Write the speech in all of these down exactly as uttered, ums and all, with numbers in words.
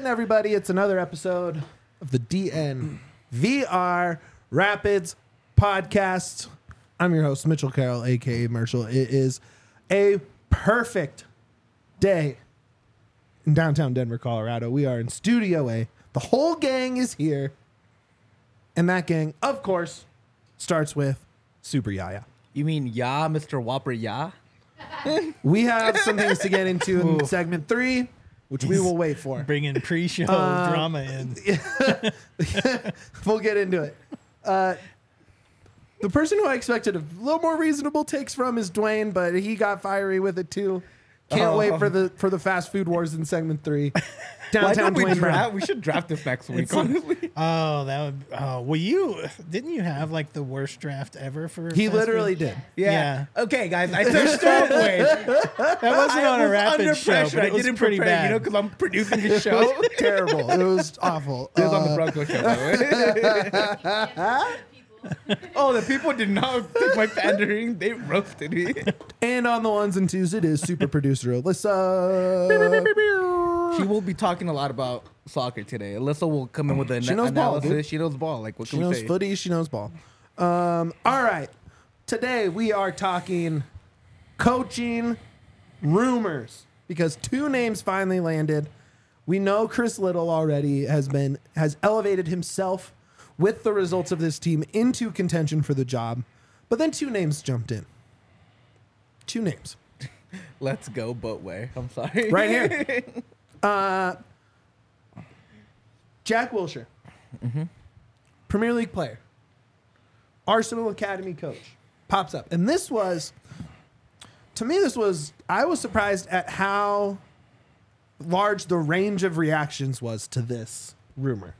everybody. It's another episode of the D N V R Rapids podcast. I'm your host, Mitchell Carroll, a k a. Marshall. It is a perfect day in downtown Denver, Colorado. We are in Studio A. The whole gang is here. And that gang, of course, starts with Super Yaya. You mean Ya, Mister Whopper Ya? We have some things to get into in segment three, which we will wait for. Bringing pre-show Uh, drama in. We'll get into it. Uh, the person who I expected a little more reasonable takes from is Dwayne, but he got fiery with it too. Can't Oh. wait for the for the fast food wars in segment three. Why Downtown don't we Dwayne Brown. draft? We should draft this next week, It's- honestly. Oh, that would. Oh, well, you didn't you have like the worst draft ever for? He fast literally food? did. Yeah. Okay, guys. I took Stop Wait. That wasn't I on a was rapid under show, pressure. but I it was didn't pretty prepare, bad. you know, because I'm producing the show. It Terrible. It was awful. was on the Uh, Bronco show, by the way. Oh, the people did not take my pandering. They roasted me. and on the ones and twos, it is super producer Alyssa. She will be talking a lot about soccer today. Alyssa will come in with an She knows ball, analysis. dude. She knows ball. Like, what She can we knows say? footy. She knows ball. Um, all right. Today we are talking coaching rumors because two names finally landed. We know Chris Little already has been has elevated himself with the results of this team into contention for the job, but then two names jumped in. Two names Let's go Boatway. I'm sorry. right here. uh, Jack Wilshere, Premier League player, Arsenal Academy coach, pops up. And this was, to me, this was, I was surprised at how large the range of reactions was to this rumor.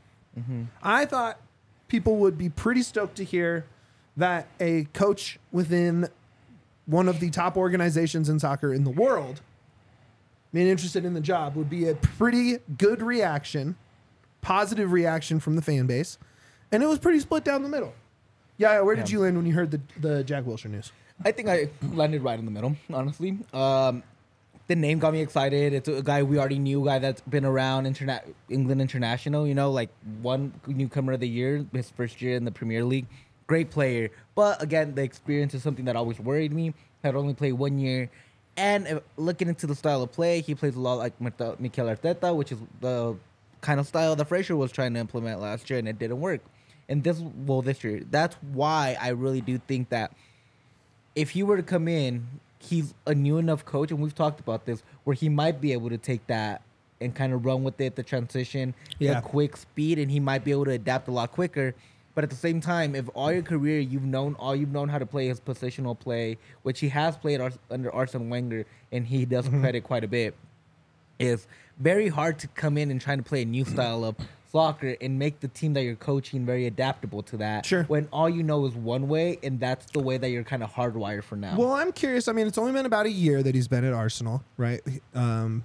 I thought people would be pretty stoked to hear that a coach within one of the top organizations in soccer in the world being interested in the job would be a pretty good reaction, positive reaction from the fan base. And it was pretty split down the middle. Yeah, where did Yeah. you land when you heard the, the Jack Wilshere news? I think I landed right in the middle, honestly. Um, the name got me excited. It's a guy we already knew, a guy that's been around interna- England International, you know, like one newcomer of the year, his first year in the Premier League. Great player. But again, the experience is something that always worried me. Had only played one year. And uh, looking into the style of play, he plays a lot like Mikel Arteta, which is the kind of style that Fraser was trying to implement last year, and it didn't work. And this, well, this year. That's why I really do think that if he were to come in, he's a new enough coach, and we've talked about this, where he might be able to take that and kind of run with it, the transition, Yeah. the quick speed, and he might be able to adapt a lot quicker. But at the same time, if all your career you've known all you've known how to play is positional play, which he has played Ars- under Arsene Wenger, and he does Mm-hmm. credit quite a bit, is very hard to come in and try to play a new style of soccer and make the team that you're coaching very adaptable to that. Sure. When all you know is one way, and that's the way that you're kind of hardwired for now. Well, I'm curious. I mean, it's only been about a year that he's been at Arsenal, right? Um,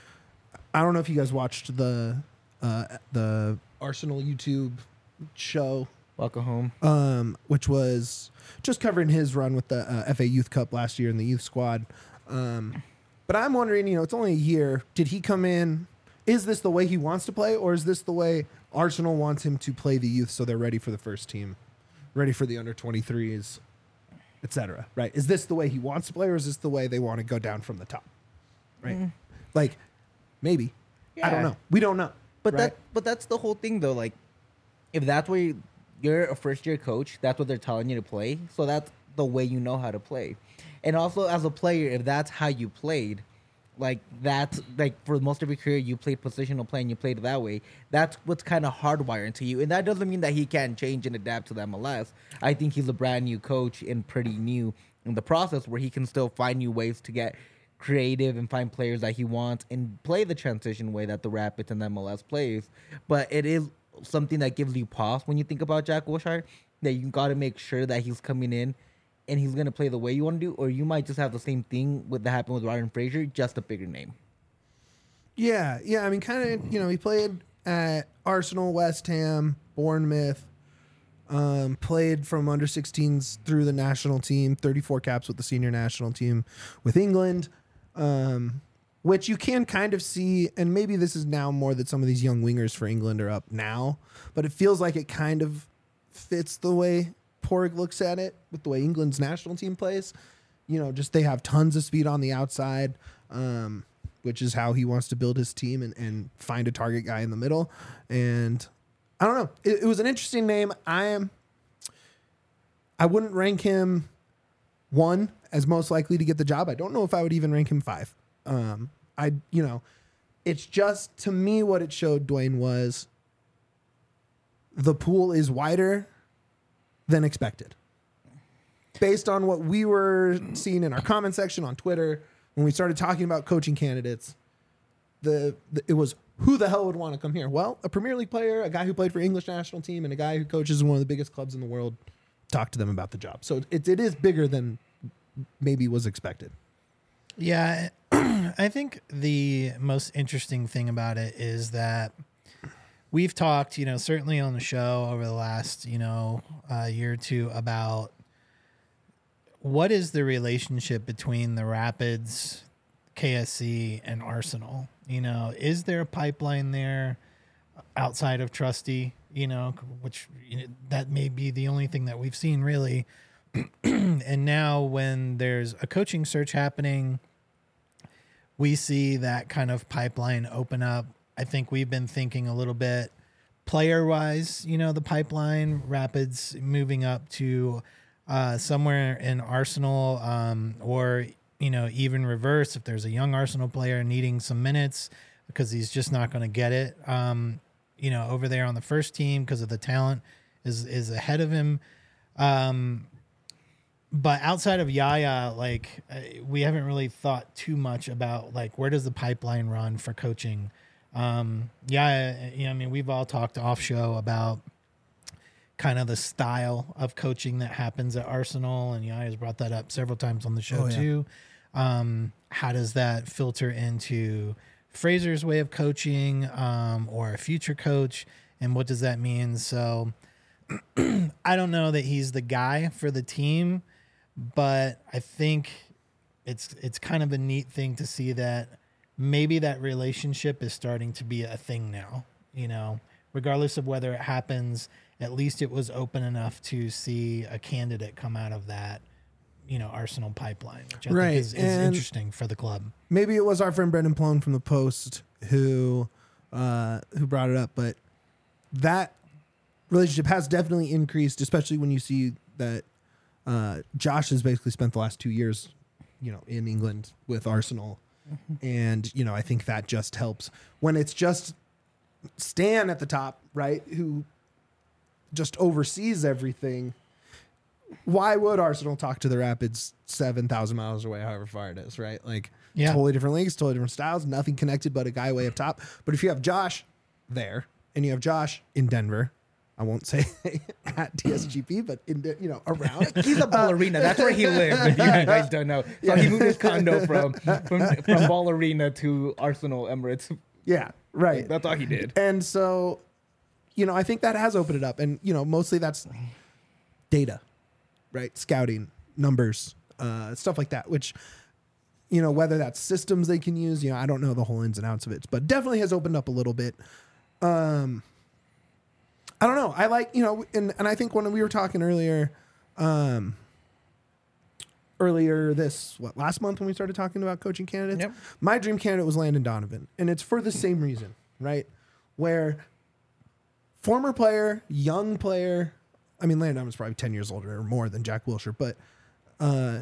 I don't know if you guys watched the uh, the Arsenal YouTube show, Welcome home. um, which was just covering his run with the uh, F A Youth Cup last year in the youth squad. Um, but I'm wondering, you know, it's only a year. Did he come in? Is this the way he wants to play, or is this the way Arsenal wants him to play the youth so they're ready for the first team, ready for the under twenty-threes, et cetera, right? Is this the way he wants to play, or is this the way they want to go down from the top, right? Mm. Like, maybe. I don't Yeah. know. We don't know. But right? that, but that's the whole thing, though. Like, if that's where you, you're a first year coach, that's what they're telling you to play. So that's the way you know how to play. And also, as a player, if that's how you played, like that's like for most of your career, you played positional play and you played that way. That's what's kind of hardwired into you. And that doesn't mean that he can't change and adapt to the M L S. I think he's a brand new coach and pretty new in the process, where he can still find new ways to get creative and find players that he wants and play the transition way that the Rapids and the M L S plays. But it is something that gives you pause when you think about Jack Wilshere, that you got to make sure that he's coming in and he's going to play the way you want to do, or you might just have the same thing with that happened with Ryan Fraser, just a bigger name. Yeah, yeah. I mean, kind of, you know, he played at Arsenal, West Ham, Bournemouth, um, played from under sixteens through the national team, thirty-four caps with the senior national team with England. Um, which you can kind of see, and maybe this is now more that some of these young wingers for England are up now, but it feels like it kind of fits the way Porg looks at it with the way England's national team plays. You know, just they have tons of speed on the outside, um, which is how he wants to build his team and, and find a target guy in the middle. And I don't know. It, it was an interesting name. I am. I wouldn't rank him one as most likely to get the job. I don't know if I would even rank him five. Um, I, you know, it's just to me what it showed, Dwayne, was the pool is wider than expected. Based on what we were seeing in our comment section on Twitter, when we started talking about coaching candidates, the, the it was who the hell would want to come here? Well, a Premier League player, a guy who played for English national team, and a guy who coaches in one of the biggest clubs in the world talk to them about the job. So it, it is bigger than maybe was expected. Yeah, I think the most interesting thing about it is that we've talked, you know, certainly on the show over the last, you know, uh, year or two about what is the relationship between the Rapids, K S C, and Arsenal? You know, is there a pipeline there outside of Trusty? You know, which you know, that may be the only thing that we've seen really. And now when there's a coaching search happening, we see that kind of pipeline open up. I think we've been thinking a little bit player-wise, you know, the pipeline, Rapids moving up to uh, somewhere in Arsenal, um, or, you know, even reverse if there's a young Arsenal player needing some minutes because he's just not going to get it, um, you know, over there on the first team because of the talent is is ahead of him. Um, but outside of Yaya, like uh, we haven't really thought too much about like where does the pipeline run for coaching. Um, yeah, you know, I mean, we've all talked off show about kind of the style of coaching that happens at Arsenal, and Yaya's brought that up several times on the show oh, yeah. too. Um, how does that filter into Fraser's way of coaching, um, or a future coach, and what does that mean? So I don't know that he's the guy for the team, but I think it's it's kind of a neat thing to see that maybe that relationship is starting to be a thing now, you know, regardless of whether it happens, at least it was open enough to see a candidate come out of that, you know, Arsenal pipeline, which I right. think is, is interesting for the club. Maybe it was our friend Brendan Plone from the Post who, uh, who brought it up, but that relationship has definitely increased, especially when you see that, uh, Josh has basically spent the last two years, you know, in England with Arsenal. And, you know, I think that just helps when it's just Stan at the top, right, who just oversees everything. Why would Arsenal talk to the Rapids seven thousand miles away, however far it is, right? Like, yeah. totally different leagues, totally different styles, nothing connected but a guy way up top. But if you have Josh there and you have Josh in Denver, I won't say at T S G P, but in the, you know, around. He's a ballerina. That's where he lived. If you guys don't know, so yeah. he moved his condo from from from Ball Arena to Arsenal Emirates. Yeah, right. That's all he did. And so, you know, I think that has opened it up, and you know, mostly that's data, right? Scouting, numbers, uh, stuff like that. Which, you know, whether that's systems they can use, you know, I don't know the whole ins and outs of it, but definitely has opened up a little bit. Um. I don't know. I like, you know, and, and I think when we were talking earlier, um, earlier this, what, last month when we started talking about coaching candidates, yep. my dream candidate was Landon Donovan. And it's for the same reason, right? Where former player, young player, I mean, Landon Donovan's probably ten years older or more than Jack Wilshere, but, uh,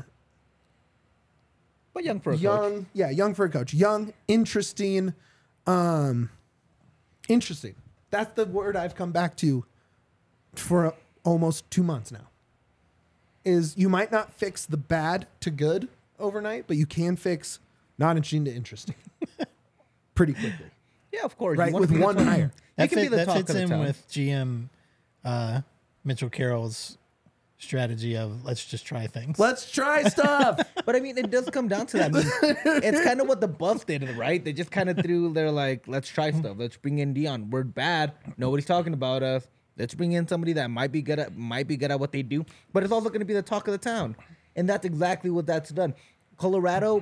but young for a young, coach. Yeah, young for a coach. Young, interesting, um, interesting. That's the word I've come back to for almost two months now. Is you might not fix the bad to good overnight, but you can fix not interesting to interesting pretty quickly. Yeah, of course. Right, with one hire. That, fit, that fits in with G M uh, Mitchell Carroll's strategy of let's just try things. Let's try stuff. But I mean, it does come down to that. I mean, it's kind of what the Buffs did, right? They just kind of threw, they're like, let's try stuff. Let's bring in Dion. We're bad. Nobody's talking about us. Let's bring in somebody that might be good at might be good at what they do, but it's also going to be the talk of the town. And that's exactly what that's done. Colorado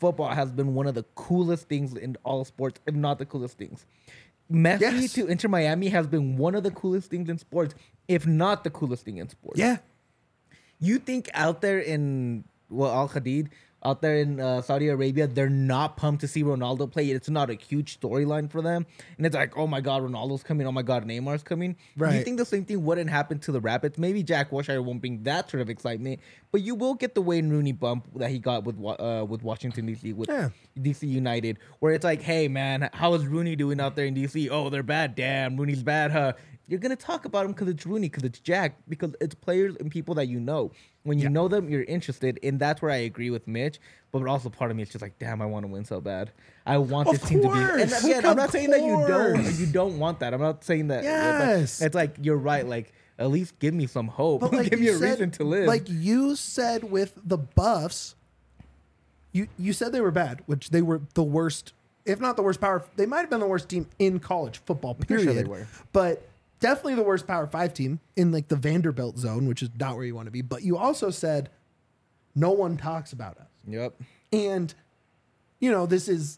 football has been one of the coolest things in all sports, if not the coolest things. Messi Yes. to Inter Miami has been one of the coolest things in sports, if not the coolest thing in sports. Yeah. You think out there in well Al Hadid, out there in uh, Saudi Arabia, they're not pumped to see Ronaldo play. It's not a huge storyline for them, and it's like, oh my god, Ronaldo's coming. Oh my god, Neymar's coming. Right. You think the same thing wouldn't happen to the Rapids? Maybe Jack Wilshere won't bring that sort of excitement, but you will get the Wayne Rooney bump that he got with Wa- uh, with Washington D C with Yeah. D C United, where it's like, hey man, how is Rooney doing out there in D C? Oh, they're bad. Damn, Rooney's bad, huh? You're gonna talk about him because it's Rooney, because it's Jack, because it's players and people that you know. When you Yeah. know them, you're interested, and that's where I agree with Mitch. But also, part of me is just like, damn, I want to win so bad. I want Of this team to be. And course. again, I'm Of not saying that you don't, course. you don't want that. I'm not saying that. Yes. It's like you're right. Like at least give me some hope. But like give me you a said, reason to live. Like you said with the Buffs, you you said they were bad, which they were the worst, if not the worst power. They might have been the worst team in college football. pretty Period. sure they were. But definitely the worst Power Five team in like the Vanderbilt zone, which is not where you want to be. But you also said no one talks about us. Yep. And, you know, this is,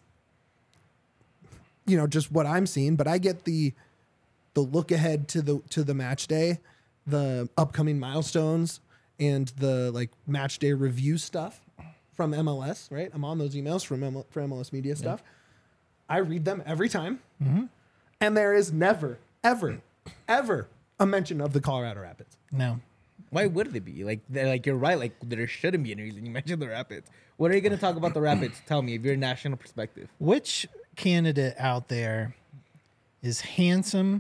you know, just what I'm seeing, but I get the the look ahead to the to the match day, the upcoming milestones, and the like match day review stuff from M L S, right? I'm on those emails from M L, for M L S Media stuff. I read them every time. And there is never, ever, ever a mention of the Colorado Rapids. No. Why would it be? Like, they're- like you're right. Like there shouldn't be any reason. You mentioned the Rapids. What are you going to talk about the Rapids? Tell me, if you're a national perspective. Which candidate out there is handsome,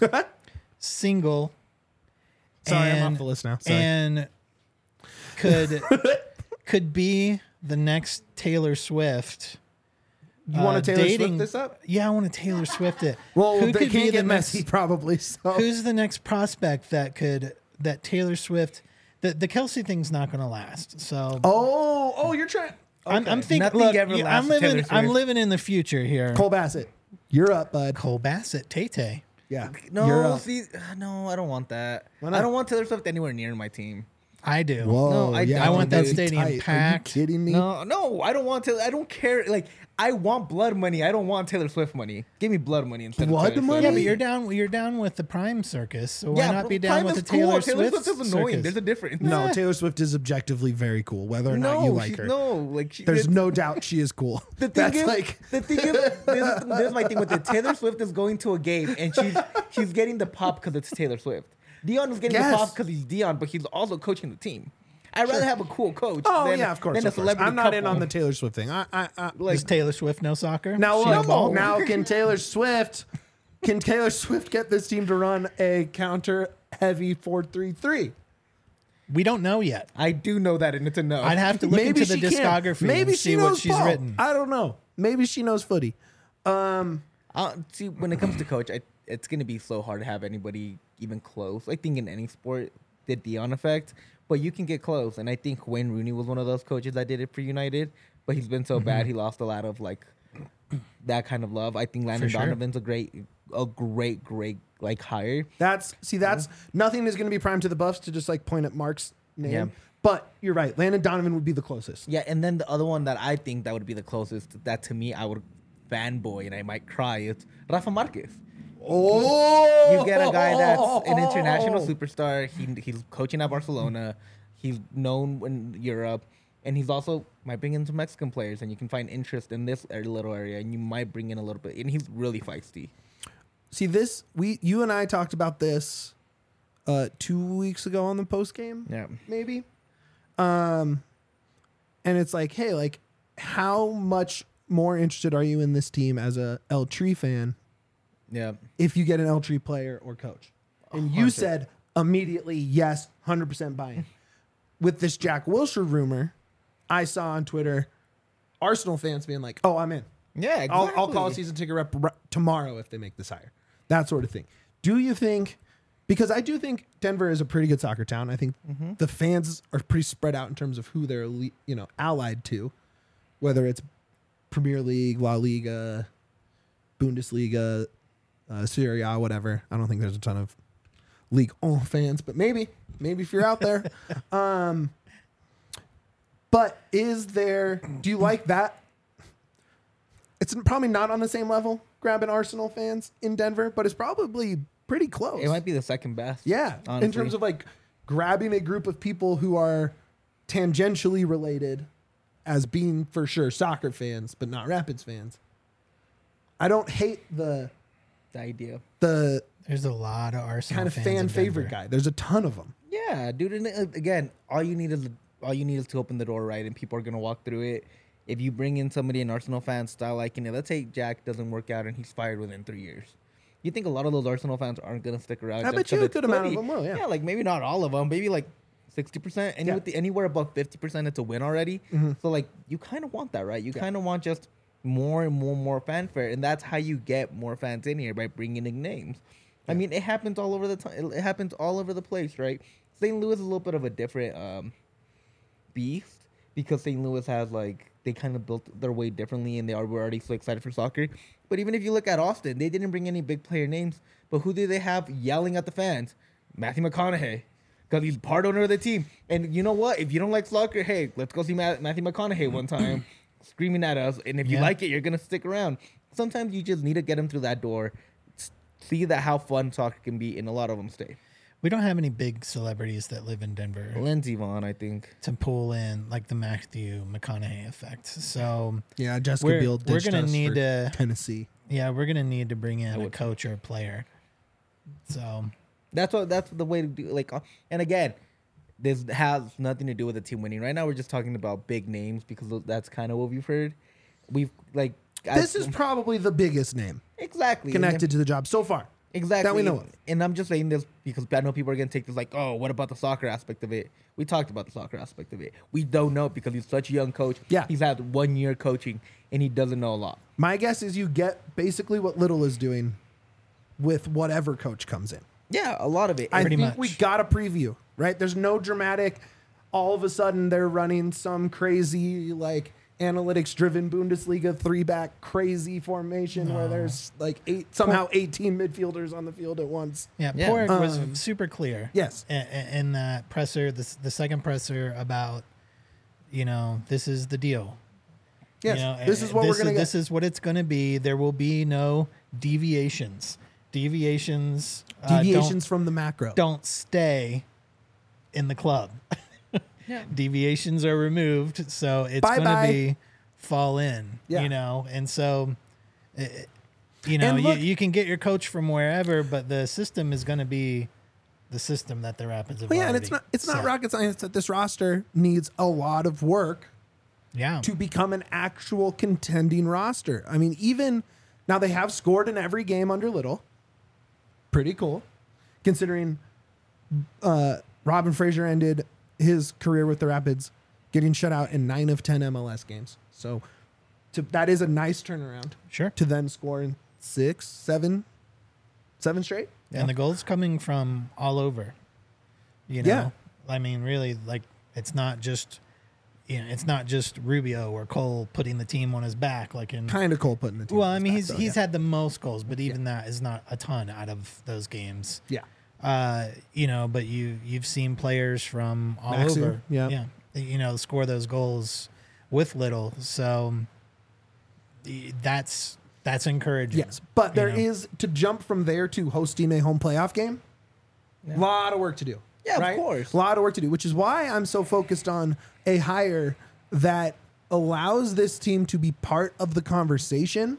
single, Sorry, I'm and, off the list now. Sorry. and could could be the next Taylor Swift? You want uh, to Taylor dating- Swift this up? Yeah, I want to Taylor Swift it. Well, Who they could be can't the get next- messy probably. So Who's the next prospect that could that Taylor Swift? The the Kelsey thing's not going to last. So Oh, oh, you're trying. I'm, I'm thinking. Nothing Look, ever yeah, lasts I'm with living. Taylor I'm Swift. living in the future here. Cole Bassett, you're up, bud. Cole Bassett, Tay Tay. Yeah, No, you're up. see, uh, no, I don't want that. Why not? I don't want Taylor Swift anywhere near my team. I do. Whoa, No, I yeah, don't, I want that dude. stadium Tight. packed. Are you kidding me? No, no, I don't want to. I don't care. Like, I want blood money. I don't want Taylor Swift money. Give me blood money instead Blood of Taylor money? Swift. Yeah, but you're down. You're down with the Prime Circus. So why Yeah, not but be down Prime with is the Taylor cool. Swift? Taylor Swift is annoying. circus? There's a difference. No, Taylor Swift is objectively very cool, whether or not no, you like she- her. No, like she, There's the, no doubt she is cool. the thing That's is, like the thing is, this, is- this is my thing with it. Taylor Swift is going to a game and she's she's getting the pop because it's Taylor Swift. Dion is getting Yes. the pop because he's Dion, but he's also coaching the team. I'd rather have a cool coach. Oh than, yeah, of course. Than a Of course. celebrity I'm not in couple. on the Taylor Swift thing. I, I, I like Does Taylor Swift know soccer? now She a look, ball? now can Taylor Swift can Taylor Swift get this team to run a counter heavy four three three? We don't know yet. I do know that, and it's a no. I'd have to look Maybe into the she can. discography Maybe and she see knows what she's ball. written. I don't know. Maybe she knows footy. Um, Uh, see, when it comes to coach, I, it's going to be so hard to have anybody even close. I think in any sport, the Dion effect, but you can get close. And I think Wayne Rooney was one of those coaches that did it for United, but he's been so Mm-hmm. bad, he lost a lot of like that kind of love. I think Landon sure. Donovan's a great, a great, great like hire. That's see, that's nothing is going to be prime to the Buffs to just like point at Mark's name. Yeah. But you're right. Landon Donovan would be the closest. Yeah, and then the other one that I think that would be the closest that to me I would fanboy and I might cry is Rafa Marquez. Oh, You get a guy that's an international superstar. He he's coaching at Barcelona. He's known in Europe, and he's also might bring in some Mexican players, and you can find interest in this area- little area, and you might bring in a little bit. And he's really feisty. See this. We, you and I talked about this uh, two weeks ago on the post game. Yeah, Maybe. Um, and it's like, hey, like, how much more interested are you in this team as a El Tree fan yeah. if you get an El Tree player or coach? And you hundred. said immediately, yes, one hundred percent buy-in. With this Jack Wilshere rumor, I saw on Twitter Arsenal fans being like, oh, I'm in. Yeah, exactly. I'll, I'll call a season ticket rep r- tomorrow if they make this hire. That sort of thing. Do you think, because I do think Denver is a pretty good soccer town. I think the fans are pretty spread out in terms of who they're, elite, you know, allied to, whether it's Premier League, La Liga, Bundesliga, uh, Serie A, whatever. I don't think there's a ton of League One fans, but maybe, maybe if you're out there. um, but is there, do you like that it's probably not on the same level grabbing Arsenal fans in Denver, but it's probably pretty close. It might be the second best. Yeah, honestly. in terms of like grabbing a group of people who are tangentially related as being for sure soccer fans, but not Rapids fans. I don't hate the the idea. the There's a lot of Arsenal kind of fans fan in favorite Denver. guy. There's a ton of them. Yeah, dude. And uh, again, all you need is all you need is to open the door, right? And people are gonna walk through it. If you bring in somebody an Arsenal fan style liking it, let's say Jack doesn't work out and he's fired within three years. You think a lot of those Arsenal fans aren't gonna stick around? I just bet you 'cause a it's good amount of footy? them will, yeah. Yeah, like maybe not all of them, maybe like sixty percent. Any Yeah. with the, anywhere above fifty percent, it's a win already. Mm-hmm. So like you kind of want that, right? You kind of want just more and more and more fanfare, and that's how you get more fans in here by bringing in names. I mean, it happens all over the time. It happens all over the place, right? Saint Louis is a little bit of a different um, beast because Saint Louis has like they kind of built their way differently, and they are were already so excited for soccer. But even if you look at Austin, they didn't bring any big player names. But who did they have yelling at the fans? Matthew McConaughey, because he's part owner of the team. And you know what? If you don't like soccer, hey, let's go see Ma- Matthew McConaughey one time, screaming at us. And if you Yeah. like it, you're gonna stick around. Sometimes you just need to get them through that door, s- see that how fun soccer can be, and a lot of them stay. We don't have any big celebrities that live in Denver Lindsey Vaughn, I think. to pull in like the Matthew McConaughey effect. So Yeah, Jessica We're- Biel we're ditched gonna us need for to- Tennessee. yeah, we're gonna need to bring in a would- coach or a player. So That's what. That's the way to do. Like, uh, and again, this has nothing to do with the team winning. Right now, we're just talking about big names because that's kind of what we've heard. We've like This I- is probably the biggest name exactly connected to the job so far. Exactly. that we know of. And I'm just saying this because I know people are going to take this like, oh, what about the soccer aspect of it? We talked about the soccer aspect of it. We don't know because he's such a young coach. Yeah. He's had one year coaching and he doesn't know a lot. My guess is you get basically what Little is doing with whatever coach comes in. Yeah, a lot of it. I Pretty think much. we got a preview, right? There's no dramatic, all of a sudden they're running some crazy, like, analytics driven Bundesliga three back crazy formation where there's like eight, somehow eighteen midfielders on the field at once. yeah, Yeah. Porg was Um, super clear. Yes. in, in that presser, the the second presser about, you know, this is the deal. Yes. You know, this is what this we're going to This get. is what it's going to be. There will be no deviations. Deviations. uh, Deviations from the macro. don't, don't stay in the club. Yeah. Deviations are removed, so it's going Bye-bye. to be fall in. Yeah. You know, and so. uh, You know, And you, look- you can get your coach from wherever, but the system is going to be the system that the Rapids have Well, yeah, and already it's not it's not set. rocket science that this roster needs a lot of work Yeah. to become an actual contending roster. I mean, even now they have scored in every game under Little. Pretty cool, considering uh, Robin Fraser ended his career with the Rapids getting shut out in nine of ten M L S games. So to, that is a nice turnaround Sure. to then score in six, seven, seven straight. And the goals coming from all over. You know, Yeah. I mean, really, like it's not just, you know, it's not just Rubio or Cole putting the team on his back, like in. Kind of cool putting the team. Well, on I his mean, back, he's though, he's yeah. had the most goals, but even that is not a ton out of those games. yeah. Uh, you know, but you you've seen players from all Maxi, over, yeah. yeah, you know, score those goals with Little. So y- that's that's encouraging. Yes, but you there know? is to jump from there to hosting a home playoff game. A lot of work to do. Yeah, of right? course. A lot of work to do, which is why I'm so focused on a hire that allows this team to be part of the conversation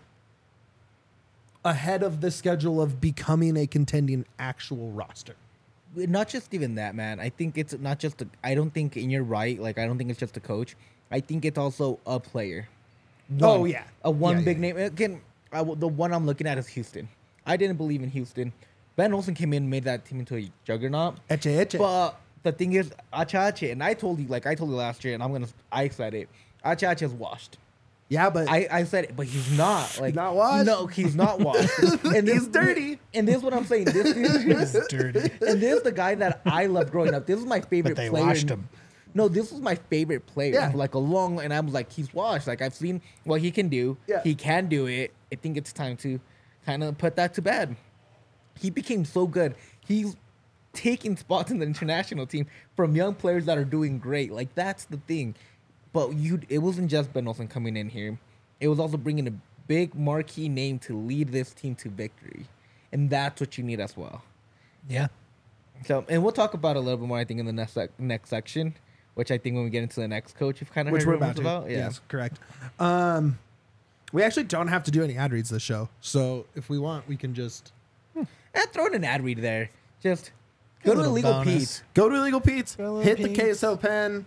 ahead of the schedule of becoming a contending actual roster. Not just even that, man. I think it's not just. A, I don't think, and you're right. Like I don't think it's just a coach. I think it's also a player. Oh, One- yeah. a one Yeah, big yeah, name. Again, I w the one I'm looking at is Houston. I didn't believe in Houston. Ben Olsen came in and made that team into a juggernaut. Eche, eche. But the thing is, Achache, and I told you, like I told you last year, and I'm gonna, I said it. Achache is washed. yeah, but I, I said it, but he's not. Like not washed? No, he's not washed. And He's dirty. And this is what I'm saying. This is It's dirty. and this is the guy that I loved growing up. This is my favorite But they player. washed in- him. No, this was my favorite player Yeah. for like a long, and I was like, he's washed. Like I've seen what he can do. Yeah. He can do it. I think it's time to kind of put that to bed. He became so good. He's taking spots in the international team from young players that are doing great. Like that's the thing. But you, it wasn't just Ben Olsen coming in here. It was also bringing a big marquee name to lead this team to victory, and that's what you need as well. Yeah. So, and we'll talk about it a little bit more, I think, in the next sec- next section, which I think when we get into the next coach, you've kind of Which heard we're about rumors to. about. Yeah. Yes, correct. Um, we actually don't have to do any ad reads this show, so if we want, we can just And throw in an ad read there. Just A go to little Illegal bonus. Pete's. go to Illegal Pete's, Go to Illegal hit the Pete's. queso pen,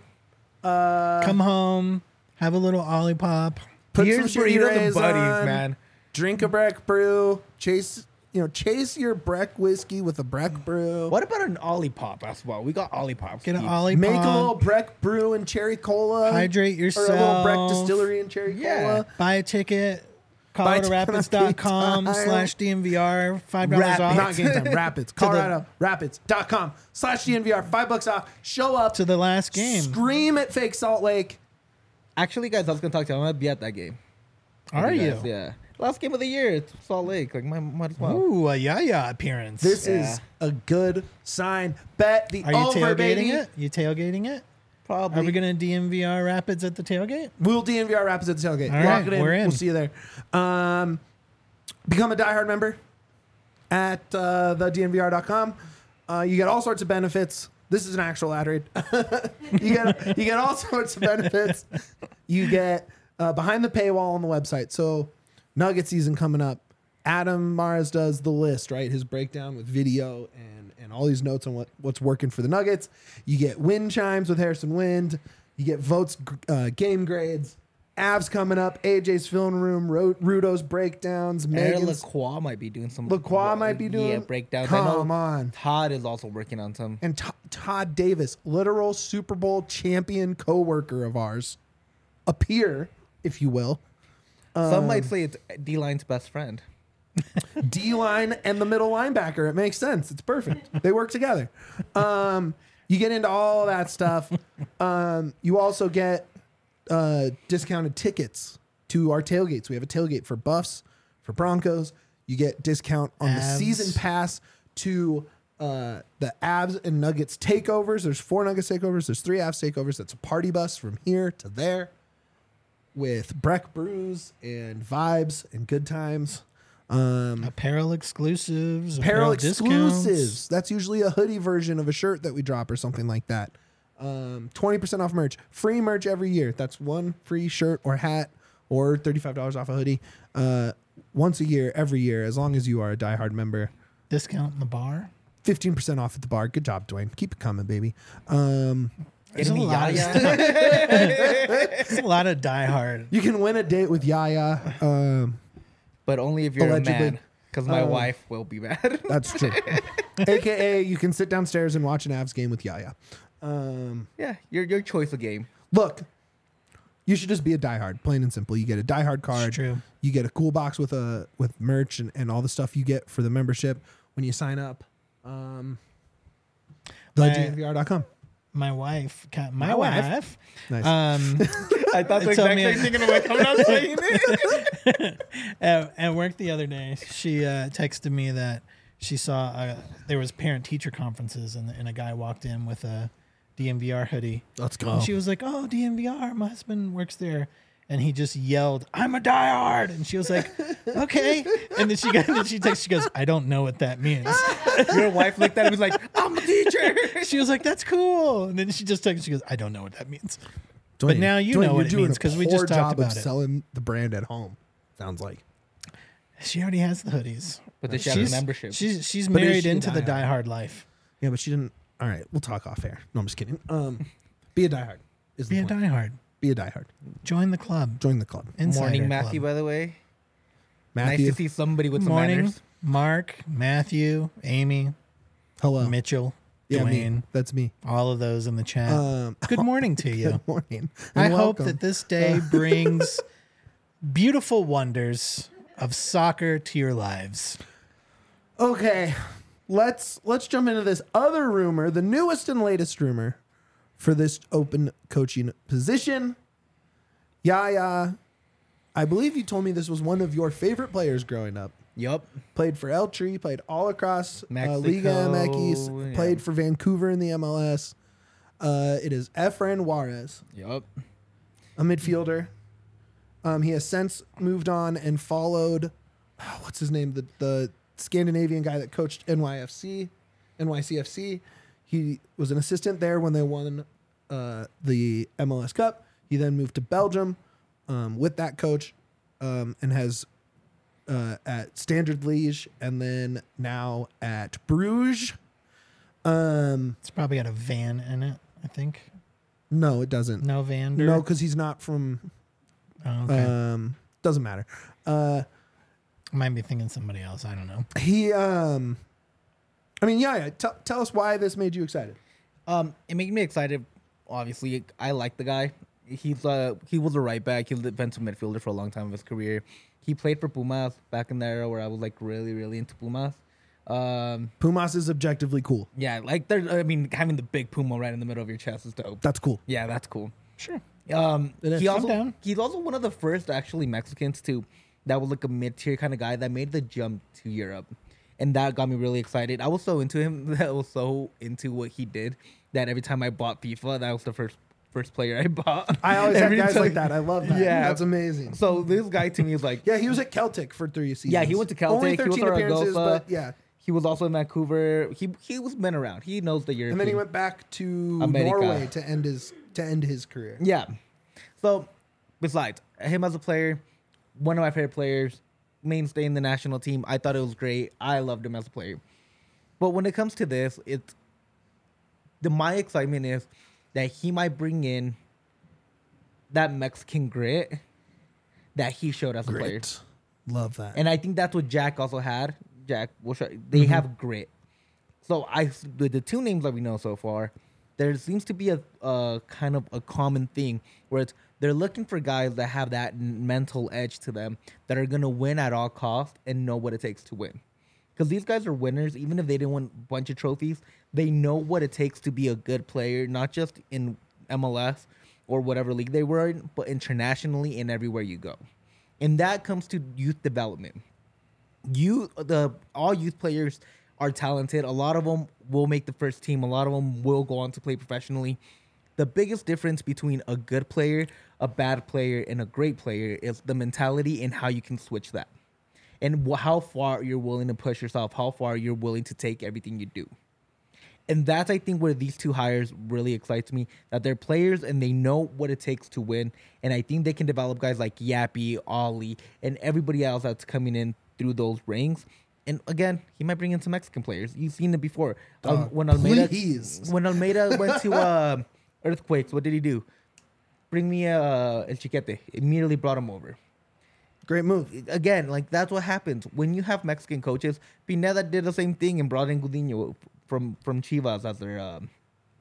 uh, Come home, have a little Olipop. put Here's some burritos Cheerios and buddies, on, man. drink a Breck brew, chase you know chase your Breck whiskey with a Breck brew. What about an Olipop as well? We got Olipops. Get an Pete's. Olipop. Make a little Breck brew and cherry cola. Hydrate Or a little Breck yourself. distillery and cherry Yeah. cola. Buy a ticket. Buy a Colorado Rapids ticket on dot com time. slash D M V R. five dollars Rapids. off. Not game time. Rapids. the- Colorado Rapids dot com slash D N V R. Five bucks off. Show up. To the last game. Scream at fake Salt Lake. Actually, guys, I was gonna talk to you. I'm gonna be at that game. Are you? Guys, yeah. Last game of the year. It's Salt Lake. Like, might, might as well. Ooh, a Yaya appearance. This Yeah. is a good sign. Bet the Are you over, tailgating baby. it? You tailgating it? Probably. Are we going to D M V R Rapids at the tailgate? We'll D N V R Rapids at the tailgate. All Lock right, it in. we're in. We'll see you there. Um, become a diehard member at uh, the D N V R dot com. Uh, you get all sorts of benefits. This is an actual ad read. you get you get all sorts of benefits. You get uh, behind the paywall on the website. So Nugget season coming up. Adam Mars does the list, right? His breakdown with video and, and all these notes on what, what's working for the Nuggets. You get wind chimes with Harrison Wind. You get votes, uh, game grades. Avs coming up. A J's film room. Ro- Rudo's breakdowns. Aaron Megan's. Lacroix might be doing some. Lacroix might be doing- yeah breakdowns. I Come know on. Todd is also working on some. And T- Todd Davis, literal Super Bowl champion co-worker of ours. A peer, if you will. Some Um, might say it's D Line's best friend. D-line and the middle linebacker. It makes sense. It's perfect. They work together. Um, you get into all that stuff. Um, you also get uh, discounted tickets to our tailgates. We have a tailgate for Buffs, for Broncos. You get discount on the Avs. season pass to uh, the Avs and Nuggets takeovers. There's four Nuggets takeovers. There's three Avs takeovers. That's a party bus from here to there with Breck brews and vibes and good times. Um, Apparel exclusives. apparel discounts. exclusives. That's usually a hoodie version of a shirt that we drop or something like that. Um, twenty percent off merch. Free merch every year. That's one free shirt or hat or thirty-five dollars off a hoodie. Uh, once a year, every year, as long as you are a diehard member. Discount in the bar. fifteen percent off at the bar. Good job, Dwayne. Keep it coming, baby. Um, There's Getting a me lot of Yaya. stuff. There's a lot of diehard. you can win a date with Yaya. Um, But only if you're Allegedly. a man. Because my Uh, wife will be mad. that's true. A K A you can sit downstairs and watch an Avs game with Yaya. Um, yeah, your your choice of game. Look, you should just be a diehard, plain and simple. You get a diehard card. It's true. You get a cool box with a with merch and, and all the stuff you get for the membership when you sign up. Um, My- the D N V R dot com. My wife. ca- My, My wife. wife. Nice. Um, I thought the Tell exact me- same thing and I'm like, I'm not saying it. at, at work the other day, she uh, texted me that she saw uh, there was parent teacher conferences and, and a guy walked in with a D M V R hoodie. Let's go. And she was like, "Oh, D M V R, my husband works there." And he just yelled, "I'm a diehard!" And she was like, "Okay." And then she got, then she texted, she goes, "I don't know what that means." Your wife looked at him and was like, I'm a teacher. She was like, "That's cool." And then she just texted, she goes, "I don't know what that means." Dwayne, but now you Dwayne, know you're what it doing means a 'cause we poor just talked job about of it. selling the brand at home. Sounds like. She already has the hoodies. But does she have a She's, membership? she's she's But is married she a into the diehard? diehard life. Yeah, but she didn't. All right, we'll talk off air. No, I'm just kidding. Um, be a diehard. Is the Be a point. diehard. Be a diehard. Join the club. Join the club. Insider Morning, club. Matthew, by the way. Matthew, Nice to see somebody with some Morning, manners. Mark, Matthew, Amy, hello. Mitchell, Yeah, me. Dwayne, That's me. all of those in the chat. Um, Good morning to you. Good morning. I and hope welcome. that this day brings beautiful wonders of soccer to your lives. Okay, let's let's jump into this other rumor, the newest and latest rumor for this open coaching position. Yaya, I believe you told me this was one of your favorite players growing up. Yup. Played for Eltree, played all across uh, Mexico, Liga M X, yeah. played for Vancouver in the M L S. Uh, it is Efrain Juarez, Yup. a midfielder. Um, he has since moved on and followed, oh, what's his name? The the Scandinavian guy that coached N Y F C, N Y C F C. He was an assistant there when they won uh, the M L S Cup. He then moved to Belgium um, with that coach um, and has uh, at Standard Liège and then now at Bruges. Um, It's probably got a van in it, I think. no, it doesn't. No van. No, because he's not from. Oh, okay. Um, doesn't matter. Uh, I might be thinking somebody else. I don't know. he. Um, I mean, yeah. yeah. Tell tell us why this made you excited. Um, it made me excited. Obviously, I like the guy. He's uh he was a right back. He was a defensive midfielder for a long time of his career. He played for Pumas back in the era where I was like really really into Pumas. Um, Pumas is objectively cool. yeah, like they're. I mean, having the big Puma right in the middle of your chest is dope. That's cool. Yeah, that's cool. Sure. Um, It is. he I'm also down. he's also one of the first actually Mexicans to that was like a mid tier kind of guy that made the jump to Europe, and that got me really excited. I was so into him. That I was so into what he did that every time I bought FIFA, that was the first first player I bought. I always have Every guys time- like that. I love that. Yeah. That's amazing. So this guy to me is like Yeah, he was at Celtic for three seasons. Yeah, he went to Celtic. Only He was thirteen at appearances, Zaragoza. but yeah. he was also in Vancouver. He he was been around. He knows the European. And then he went back to America. Norway to end his to end his career. Yeah. So, besides him as a player, one of my favorite players, mainstay in the national team. I thought it was great. I loved him as a player. But when it comes to this, it's the my excitement is that he might bring in that Mexican grit that he showed as a player. Great. Love that. And I think that's what Jack also had. Jack, will show, they Mm-hmm. have grit. So I, with the two names that we know so far, there seems to be a, a kind of a common thing where it's they're looking for guys that have that n- mental edge to them that are gonna win at all costs and know what it takes to win. Because these guys are winners, even if they didn't win a bunch of trophies, they know what it takes to be a good player, not just in M L S or whatever league they were in, but internationally and everywhere you go. And that comes to youth development. You, the all youth players are talented. A lot of them will make the first team. A lot of them will go on to play professionally. The biggest difference between a good player, a bad player, and a great player is the mentality and how you can switch that. And wh- how far you're willing to push yourself, how far you're willing to take everything you do. And that's, I think, where these two hires really excites me, that they're players and they know what it takes to win. And I think they can develop guys like Yappy, Ollie, and everybody else that's coming in through those rings. And again, he might bring in some Mexican players. You've seen it before. Um, Dog, when Almeida, please. when Almeida went to uh, Earthquakes, what did he do? Bring me uh, El Chiquete. Immediately brought him over. Great move. Again, like that's what happens when you have Mexican coaches. Pineda did the same thing and brought in Gudiño from from Chivas as their um,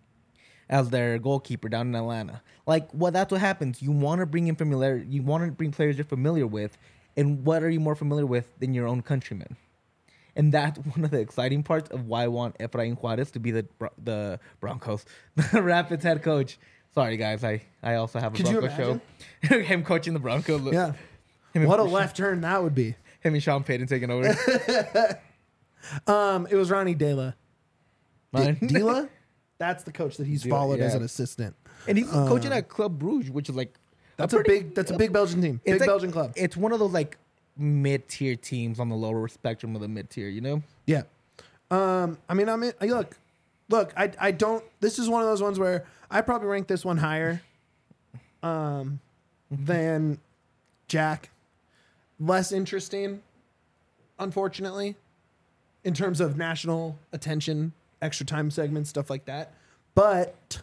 as their goalkeeper down in Atlanta. Like, well, that's what happens. You want to bring in familiar. You want to bring players you're familiar with, and what are you more familiar with than your own countrymen? And that's one of the exciting parts of why I want Efrain Juarez to be the Bro- the Broncos, the Rapids head coach. Sorry, guys, I, I also have a Could you Bronco show. Him coaching the Broncos. Look, Yeah. him and- What a left turn that would be. Him and Sean Payton taking over. Um, it was Ronnie Dela. Mine. Dela? That's the coach that he's Dela, followed as yeah. an assistant. And he's coaching at Club Bruges, which is like That's a, pretty- big that's a big Belgian team. Big it's like- Belgian club. It's one of those like mid tier teams on the lower spectrum of the mid tier, you know? Yeah. Um, I mean, I mean, I- look, look, I, I don't. This is one of those ones where I probably rank this one higher, um, than Jack. Less interesting, unfortunately, in terms of national attention, extra time segments, stuff like that. But,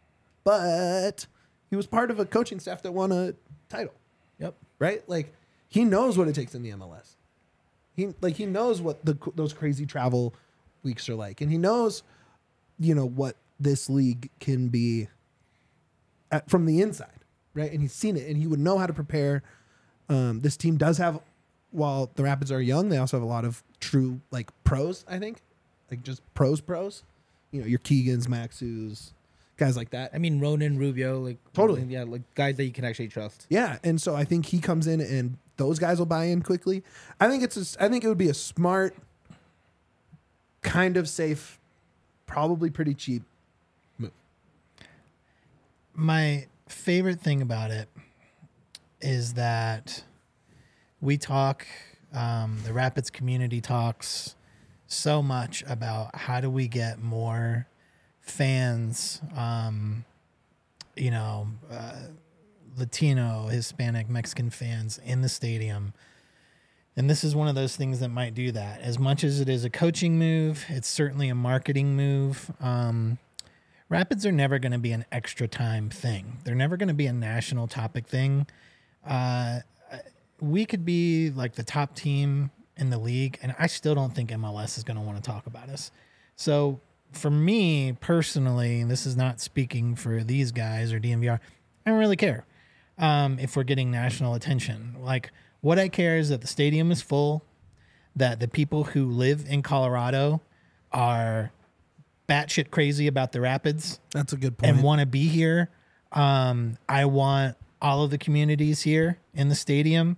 but he was part of a coaching staff that won a title, Yep. right? Like he knows what it takes in the M L S. He like he knows what the those crazy travel weeks are like, and he knows, you know, what this league can be at, from the inside, right? And he's seen it, and he would know how to prepare. Um, this team does have, while the Rapids are young, they also have a lot of true like pros. I think, like just pros, pros. You know, your Keegans, Maxus, guys like that. I mean, Ronan, Rubio, like Totally. yeah, like guys that you can actually trust. Yeah, and so I think he comes in and those guys will buy in quickly. I think it's a, I think it would be a smart, kind of safe, probably pretty cheap move. My favorite thing about it is that we talk, um, the Rapids community talks so much about how do we get more fans, um, you know, uh, Latino, Hispanic, Mexican fans in the stadium. And this is one of those things that might do that. As much as it is a coaching move, it's certainly a marketing move. Um, Rapids are never going to be an extra time thing. They're never going to be a national topic thing. Uh, we could be like the top team in the league, and I still don't think M L S is going to want to talk about us. So for me personally, this is not speaking for these guys or D N V R, I don't really care um, if we're getting national attention. Like, what I care is that the stadium is full, that the people who live in Colorado are batshit crazy about the Rapids. That's a good point. And want to be here. Um, I want all of the communities here in the stadium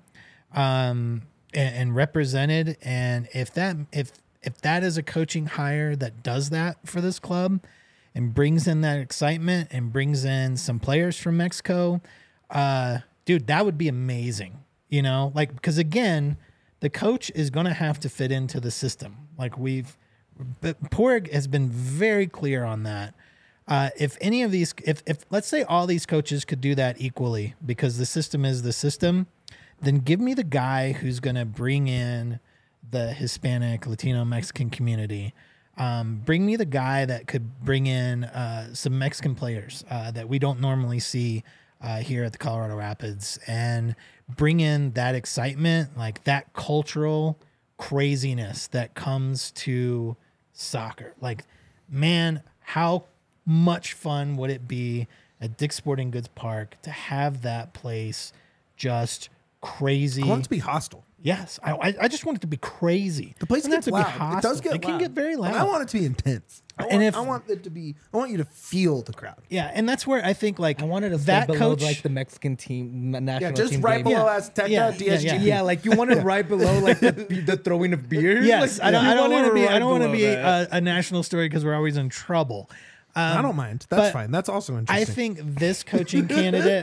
um, and, and represented. And if that if if that is a coaching hire that does that for this club and brings in that excitement and brings in some players from Mexico, uh, dude, that would be amazing. You know, like, because again, the coach is going to have to fit into the system. Like we've, but Porg has been very clear on that. Uh, if any of these, if, if let's say all these coaches could do that equally because the system is the system, then give me the guy who's going to bring in the Hispanic, Latino, Mexican community. Um, bring me the guy that could bring in uh, some Mexican players uh, that we don't normally see uh, here at the Colorado Rapids, and bring in that excitement, like that cultural craziness that comes to soccer. Like, man, how much fun would it be at Dick's Sporting Goods Park to have that place just crazy? I want it to be hostile. Yes, I, I I just want it to be crazy. The place It gets doesn't have loud. to be hostile. It does get It can loud. get very But loud. I want it to be intense. I want, And if- I want it to be. I want you to feel the crowd. Yeah, and that's where I think like I wanted to that stay below coach. like the Mexican team, na- national Yeah, just team right game. below Yeah. Azteca, Yeah, D S G. yeah, Yeah, like you want it right below like the, the throwing of beer. yes, Like, I don't. you I don't want want it to be. right I don't want to below be that. a, a national story because we're always in trouble. Um, I don't mind. That's but fine. That's also I interesting. think this coaching candidate,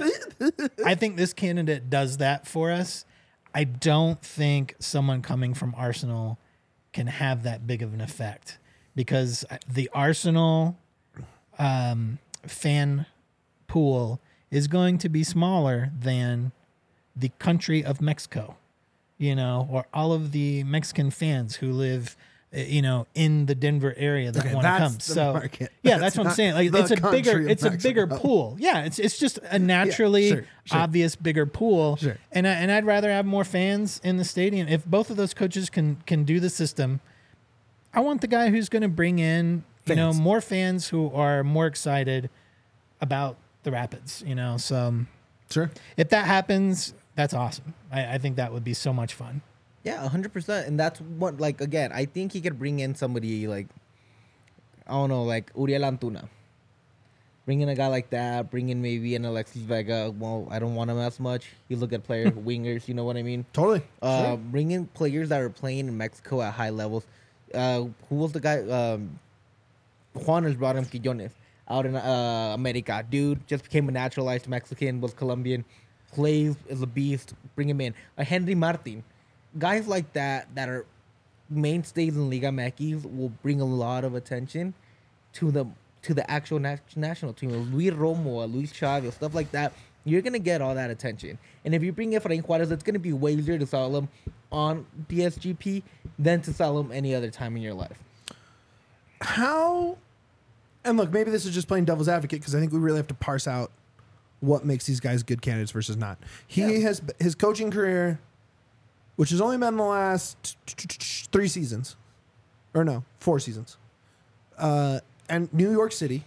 I think this candidate does that for us. I don't think someone coming from Arsenal can have that big of an effect because the Arsenal um, fan pool is going to be smaller than the country of Mexico, you know, or all of the Mexican fans who live, uh, you know, in the Denver area that Okay, want to that's come. the So market. yeah, That's that's, what I'm not saying. Like the it's a bigger, country of it's a bigger Mexico. pool. Yeah, it's it's just a naturally sure, sure. obvious bigger pool. Sure. And I, and I'd rather have more fans in the stadium. If both of those coaches can can do the system, I want the guy who's going to bring in you know Fans. more fans who are more excited about the Rapids. You know, so um, Sure. if that happens, that's awesome. I, I think that would be so much fun. Yeah, one hundred percent. And that's what, like, again, I think he could bring in somebody like, I don't know, like Uriel Antuna. Bring in a guy like that. Bring in maybe an Alexis Vega. Well, I don't want him as much. He's a good player. Wingers, you know what I mean? Totally. Uh, Sure. Bring in players that are playing in Mexico at high levels. Uh, who was the guy? Um, Juanes brought him Quillones out in uh, America. Dude just became a naturalized Mexican, was Colombian, plays is a beast. Bring him in. Uh, Henry Martin. Guys like that that are mainstays in Liga M X will bring a lot of attention to the to the actual nat- national team. Luis Romo, Luis Chavez, stuff like that. You're gonna get all that attention. And if you bring in Efrain Juarez, it's gonna be way easier to sell him on D S G P than to sell him any other time in your life. How? And look, maybe this is just playing devil's advocate because I think we really have to parse out what makes these guys good candidates versus not. He Yeah. has his coaching career, which has only been the last three seasons, or no, four seasons, uh, and New York City.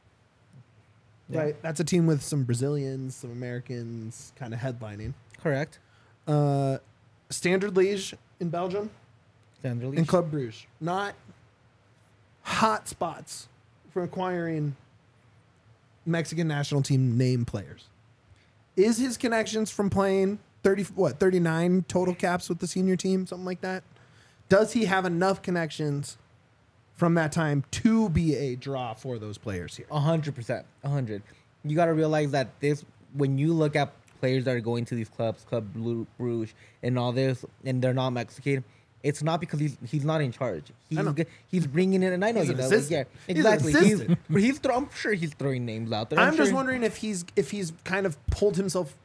Yeah. Right, that's a team with some Brazilians, some Americans, kind of headlining. Correct. Uh, Standard Liège in Belgium Sandra and Leach. Club Brugge, not hot spots for acquiring Mexican national team name players. Is his connections from playing thirty what thirty-nine total caps with the senior team, something like that? Does he have enough connections from that time to be a draw for those players here? A hundred percent, a hundred. You got to realize that this, when you look at players that are going to these clubs, Club Blue Bruges, and all this, and they're not Mexican, it's not because he's he's not in charge. He's know. g- he's bringing in, and I know He's you an know, like, assistant. yeah, He's an exactly. He's assistant. but he's throw, I'm sure he's throwing names out there. I'm, I'm just sure- wondering if he's if he's kind of pulled himself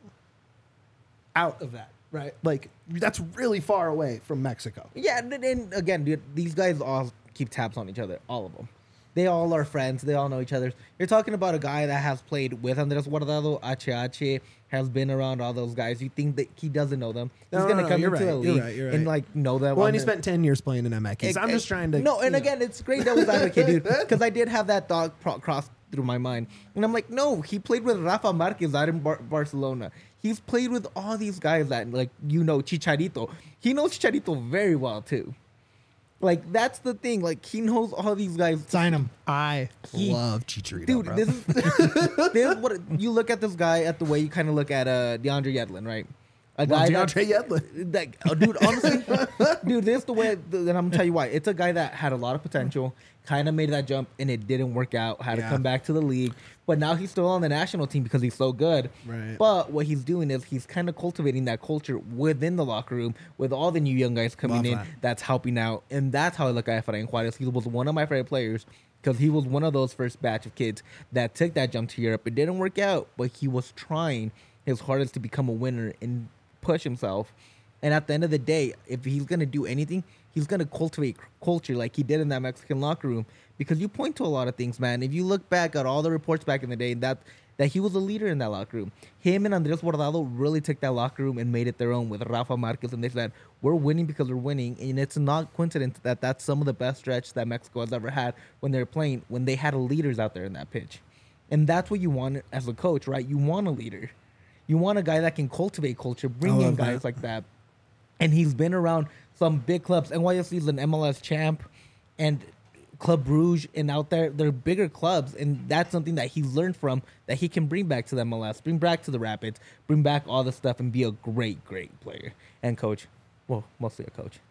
out of that, right? Like that's really far away from Mexico. Yeah, and, and again, dude, these guys all keep tabs on each other. All of them. They all are friends. They all know each other. You're talking about a guy that has played with Andres Guardado, H H, has been around all those guys. You think that he doesn't know them? He's No, no, gonna no, come you're into the right, you're league right, you're and right. like know them. Well, on and he the- spent ten years playing in M X. I'm just trying to. No, and you know. again, it's great devil's advocate, dude, because I did have that thought pro- cross through my mind, and I'm like, no, he played with Rafa Marquez out in Bar- Barcelona. He's played with all these guys that, like, you know, Chicharito. He knows Chicharito very well too. Like, that's the thing. Like, he knows all these guys. Sign him. I He- love Chicharito, Dude, bro. this is this is what you look at this guy at the way you kind of look at uh DeAndre Yedlin, right? A Love that- DeAndre Yedlin. that oh, dude, honestly, dude, this is the way. And I'm gonna tell you why. It's a guy that had a lot of potential, kind of made that jump, and it didn't work out. Had Yeah. to come back to the league, but now he's still on the national team because he's so good. Right. But what he's doing is he's kind of cultivating that culture within the locker room with all the new young guys coming Love in. that. That's helping out, and that's how I look at Efrain Juarez. He was one of my favorite players. Because he was one of those first batch of kids that took that jump to Europe. It didn't work out, but he was trying his hardest to become a winner and push himself. And at the end of the day, if he's going to do anything, he's going to cultivate culture like he did in that Mexican locker room. Because you point to a lot of things, man. If you look back at all the reports back in the day, that that he was a leader in that locker room. Him and Andres Guardado really took that locker room and made it their own with Rafa Marquez. And they said, we're winning because we're winning. And it's not coincidence that that's some of the best stretch that Mexico has ever had when they're playing, when they had leaders out there in that pitch. And that's what you want as a coach, right? You want a leader. You want a guy that can cultivate culture, bring I in love guys that. like that. And he's been around some big clubs. N Y S C is an M L S champ. And Club Bruges and out there, they're bigger clubs, and that's something that he learned from that he can bring back to the M L S, bring back to the Rapids, bring back all the stuff, and be a great, great player and coach. Well, mostly a coach.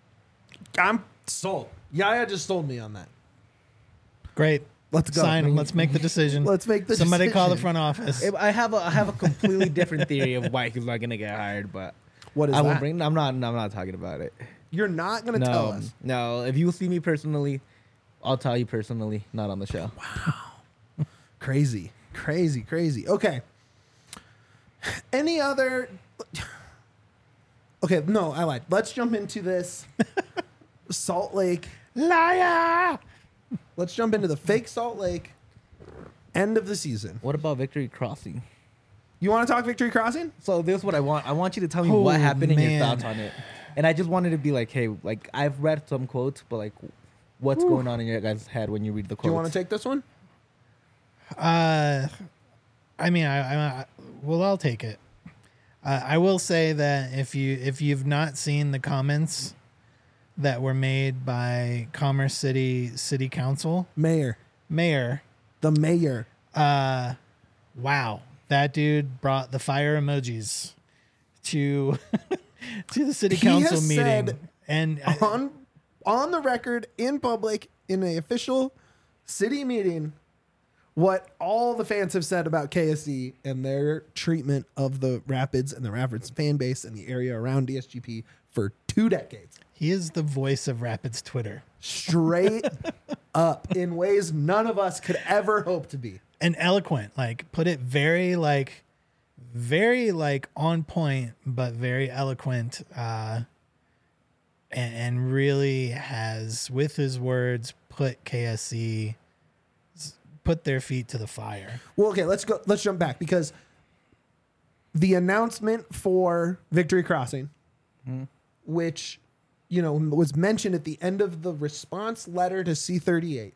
I'm sold. Yaya just sold me on that. Great. Let's go. Sign him. Let's make the decision. Let's make the Somebody call the decision. front office. If I have a I have a completely different theory of why he's not gonna get hired, but What is I won't that? bring. I'm not. I'm not talking about it. You're not going to tell No, us. no. If you see me personally, I'll tell you personally, not on the show. Crazy, crazy, crazy. Okay. Any other? Okay, no, I lied. Let's jump into this Salt Lake. Liar. Let's jump into the fake Salt Lake end of the season. What about Victory Crossing? You want to talk Victory Crossing? So this is what I want. I want you to tell me Oh, what happened and your man. thoughts on it. And I just wanted to be like, hey, like I've read some quotes, but like, what's going on in your guys' head when you read the quotes? Do you want to take this one? Uh, I mean, I, I, I well, I'll take it. Uh, I will say that if you if you've not seen the comments that were made by Commerce City City Council Mayor. Mayor, The mayor. uh, wow, that dude brought the fire emojis to to the city He council has meeting, said and I- on on the record in public in an official city meeting what all the fans have said about K S C and their treatment of the Rapids and the Rapids fan base and the area around D S G P for two decades. he is the voice of Rapids Twitter. Straight up in ways none of us could ever hope to be. And eloquent, like put it very like very like on point but very eloquent, uh and, and really has with his words put K S C put their feet to the fire. Well, okay, let's go. Let's jump back because the announcement for Victory Crossing, which you know was mentioned at the end of the response letter to C thirty-eight,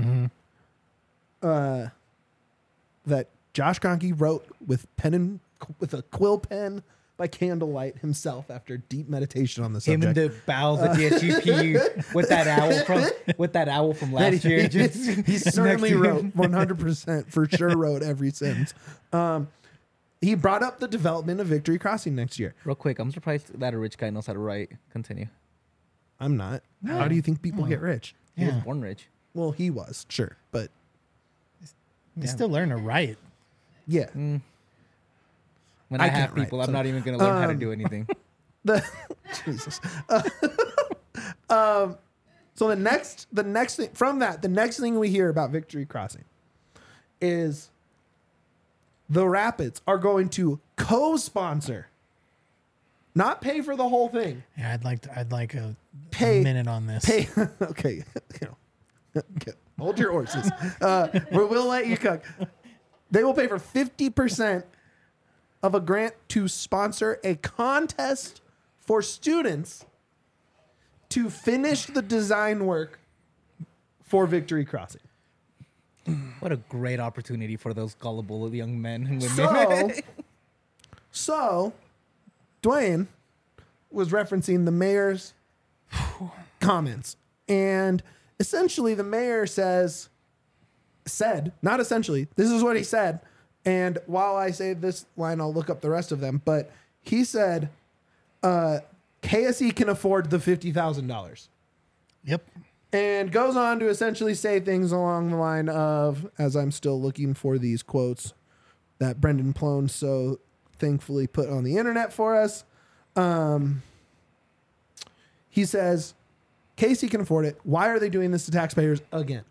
uh, that Josh Kroenke wrote with pen and with a quill pen by candlelight himself after deep meditation on the Him subject. in the bowels of D S G P with that owl from with that owl from That last he, year. he, Just he certainly next to wrote him. one hundred percent for sure wrote every sentence. Um, he brought up the development of Victory Crossing next year. Real quick, I'm surprised that a rich guy knows how to write. Continue. I'm not. How do you think people get rich? He was Yeah. born rich. Well, he was, sure. But They still learn to write. yeah. Mm. When I, I have can't write, people, I'm so- not even going to learn how to Um, do anything. The Jesus. Uh, um, so the next, the next thing from that, the next thing we hear about Victory Crossing is the Rapids are going to co-sponsor, not pay for the whole thing. Yeah, I'd like to, I'd like a, Pay- a minute on this. Pay. Okay, you know, okay, hold your horses. Uh, we will let you cook. They will pay for fifty percent of a grant to sponsor a contest for students to finish the design work for Victory Crossing. What a great opportunity for those gullible young men and women. So, so Dwayne was referencing the mayor's comments, and essentially the mayor says, said, not essentially, this is what he said. And while I say this line, I'll look up the rest of them, but he said, uh, K S E can afford the fifty thousand dollars. Yep. And goes on to essentially say things along the line of, as I'm still looking for these quotes that Brendan Plone so thankfully put on the internet for us. Um, he says, K S E can afford it. Why are they doing this to taxpayers again?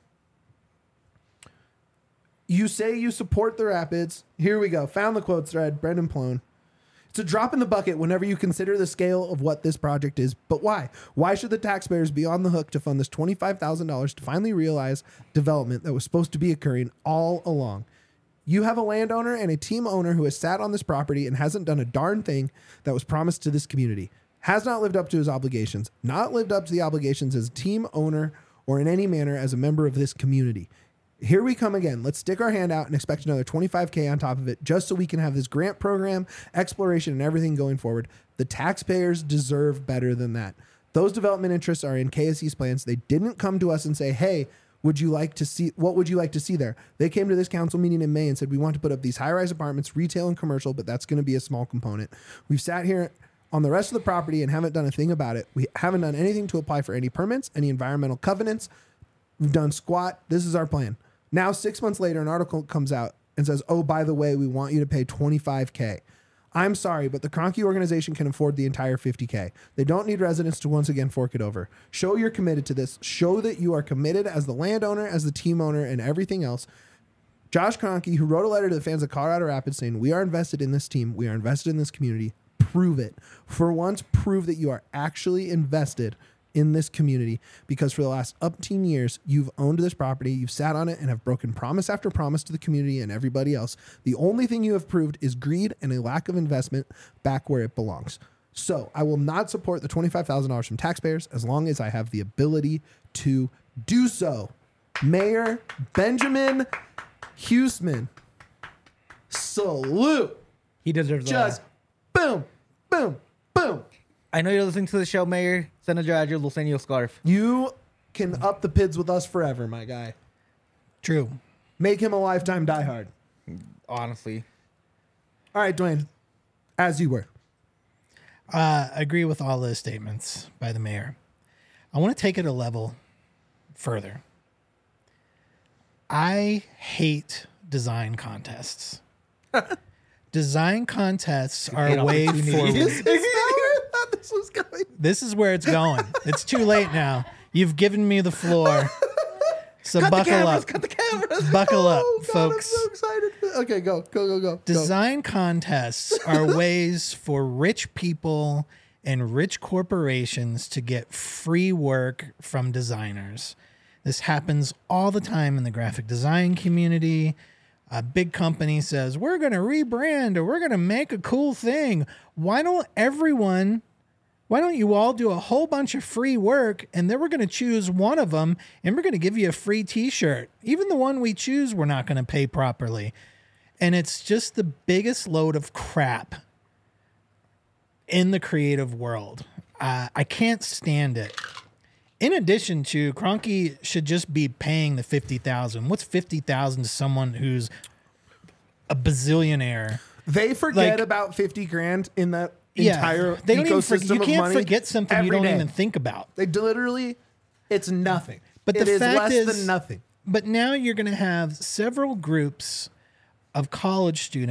You say you support the Rapids. Here we go. Found the quote thread, Brendan Plone. It's a drop in the bucket whenever you consider the scale of what this project is. But why? Why should the taxpayers be on the hook to fund this twenty-five thousand dollars to finally realize development that was supposed to be occurring all along? You have a landowner and a team owner who has sat on this property and hasn't done a darn thing that was promised to this community. Has not lived up to his obligations. Not lived up to the obligations as a team owner or in any manner as a member of this community. Here we come again. Let's stick our hand out and expect another twenty-five K on top of it just so we can have this grant program, exploration, and everything going forward. The taxpayers deserve better than that. Those development interests are in K S E's plans. They didn't come to us and say, hey, would you like to see, what would you like to see there? They came to this council meeting in May and said, we want to put up these high-rise apartments, retail and commercial, but that's going to be a small component. We've sat here on the rest of the property and haven't done a thing about it. We haven't done anything to apply for any permits, any environmental covenants. We've done squat. This is our plan. Now, six months later, an article comes out and says, oh, by the way, we want you to pay twenty-five K. I'm sorry, but the Kroenke organization can afford the entire fifty K. They don't need residents to once again fork it over. Show you're committed to this. Show that you are committed as the landowner, as the team owner, and everything else. Josh Kroenke, who wrote a letter to the fans of Colorado Rapids saying, we are invested in this team. We are invested in this community. Prove it. For once, prove that you are actually invested in this community, because for the last umpteen years, you've owned this property, you've sat on it and have broken promise after promise to the community and everybody else. The only thing you have proved is greed and a lack of investment back where it belongs. So I will not support the twenty-five thousand dollars from taxpayers as long as I have the ability to do so. Mayor Benjamin Huseman, salute. He deserves Just boom, boom, boom. I know you're listening to the show, Mayor. Send a address. We'll send you a scarf. You can up the pids with us forever, my guy. True. Make him a lifetime diehard. Honestly. All right, Dwayne, as you were. Uh, agree with all those statements by the mayor. I want to take it a level further. I hate design contests. Design contests are hate a way opportunities. Is, for. is that where I thought this was going? This is where it's going. It's too late now. You've given me the floor. So Cut buckle the cameras, up. cut the cameras. Buckle up, Oh, God, folks. I'm so excited. Okay, go, go, go, go. go. Design contests are ways for rich people and rich corporations to get free work from designers. This happens all the time in the graphic design community. A big company says, we're going to rebrand or we're going to make a cool thing. Why don't everyone, why don't you all do a whole bunch of free work and then we're going to choose one of them and we're going to give you a free t-shirt. Even the one we choose, we're not going to pay properly. And it's just the biggest load of crap in the creative world. Uh, I can't stand it. In addition to, Kroenke should just be paying the fifty thousand dollars. What's fifty thousand dollars to someone who's a bazillionaire? They forget Like- about fifty grand in that Yeah, entire they don't even ecosystem forget, you of can't money forget something you every don't day. even think about. They literally, it's nothing. But It the is fact less is, than nothing. But now you're going to have several groups of college students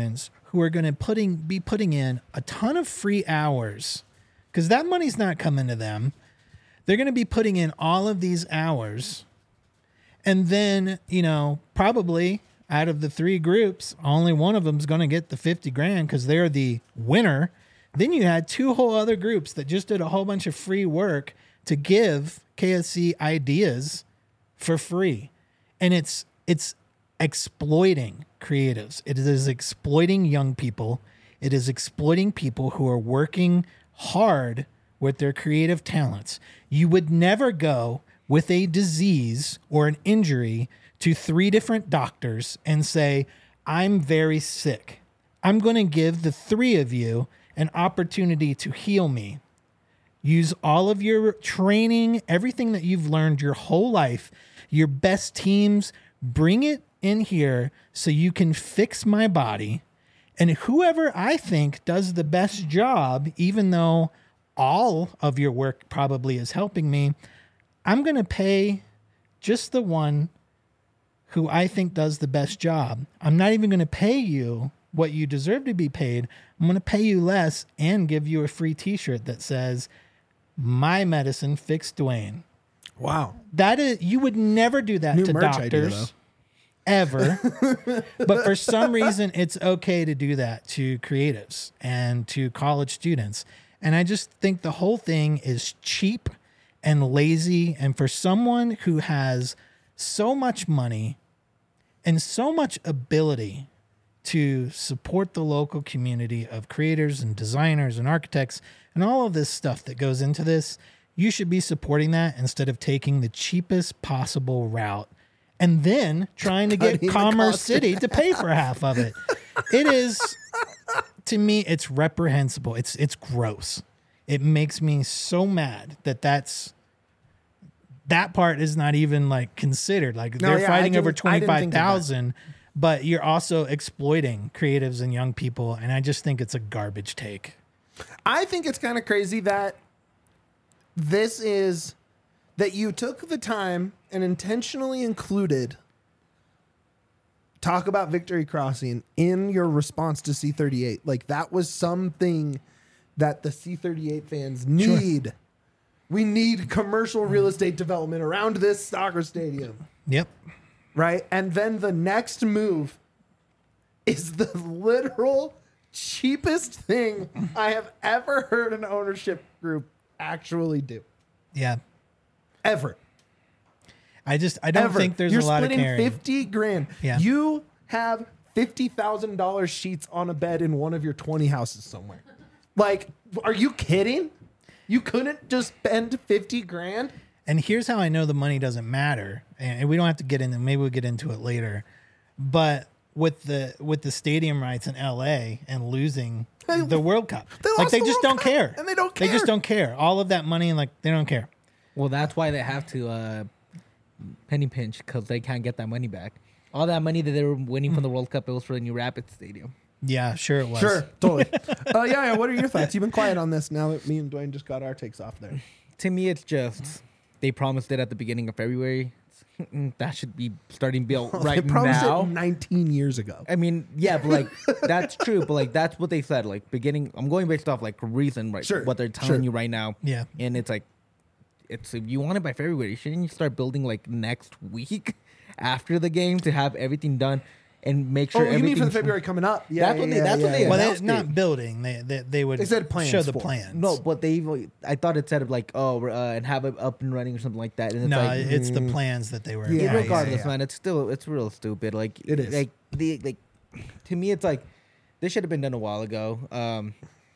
who are going to putting be putting in a ton of free hours, because that money's not coming to them. They're going to be putting in all of these hours, and then, you know, probably out of the three groups, only one of them is going to get the fifty grand because they're the winner. Then you had two whole other groups that just did a whole bunch of free work to give K S C ideas for free. And it's it's exploiting creatives. It is exploiting young people. It is exploiting people who are working hard with their creative talents. You would never go with a disease or an injury to three different doctors and say, I'm very sick. I'm going to give the three of you an opportunity to heal me. Use all of your training, everything that you've learned your whole life, your best teams, bring it in here so you can fix my body. And whoever I think does the best job, even though all of your work probably is helping me, I'm going to pay just the one who I think does the best job. I'm not even going to pay you what you deserve to be paid. I'm going to pay you less and give you a free t-shirt that says, my medicine fixed Dwayne. Wow. That is, you would never do that New to merch idea, doctors ever. But for some reason, it's okay to do that to creatives and to college students. And I just think the whole thing is cheap and lazy. And for someone who has so much money and so much ability to support the local community of creators and designers and architects and all of this stuff that goes into this, you should be supporting that instead of taking the cheapest possible route and then trying to get Cutting the Commerce cost City to pay for half of it. It is, to me, it's reprehensible. It's it's gross. It makes me so mad that that's that part is not even like considered. Like No, they're yeah, I fighting over didn't- I didn't twenty-five think of that. thousand, but you're also exploiting creatives and young people, and I just think it's a garbage take. I think it's kind of crazy that this is that you took the time and intentionally included talk about Victory Crossing in your response to C thirty-eight. Like that was something that the C thirty-eight fans need. We need commercial real estate development around this soccer stadium, Yep. right? And then the next move is the literal cheapest thing I have ever heard an ownership group actually do. Yeah. Ever. I just I don't Ever. think there's You're a lot of splitting caring. fifty grand. Yeah. You have fifty thousand dollars sheets on a bed in one of your twenty houses somewhere. Like, are you kidding? You couldn't just spend fifty grand? And here's how I know the money doesn't matter. And we don't have to get into, maybe we'll get into it later. But with the with the stadium rights in L A and losing They- the World Cup, they like lost they the just World don't Cup, care, and they don't They just care. don't care. All of that money, and like they don't care. Well, that's why they have to uh, penny pinch, because they can't get that money back. All that money that they were winning from the World Cup, it was for the new Rapids Stadium. Yeah, sure it was. Sure, totally. uh, yeah, yeah, what are your thoughts? You've been quiet on this now that me and Dwayne just got our takes off there. To me, it's just they promised it at the beginning of February. That should be starting built right they promised now. it nineteen years ago. I mean, yeah, but like that's true, but like that's what they said. Like beginning, I'm going based off like reason, right? Sure, What they're telling sure. you right now. Yeah. And it's like, it's if you want it by February, shouldn't you start building like next week after the game to have everything done and make sure Oh, you everything. mean for the February coming up? Yeah, That's what yeah, they- that's yeah, what they yeah. Well, announced they, not it. building. They, they they would They said plans show the for it. plans. No, but they even I thought it said like oh we're, uh, and have it up and running or something like that. And it's no, like it's the plans that they were. Yeah, Yeah, yeah, regardless, yeah. man, it's still it's real stupid. Like It is. Like the like to me, it's like this should have been done a while ago. Um,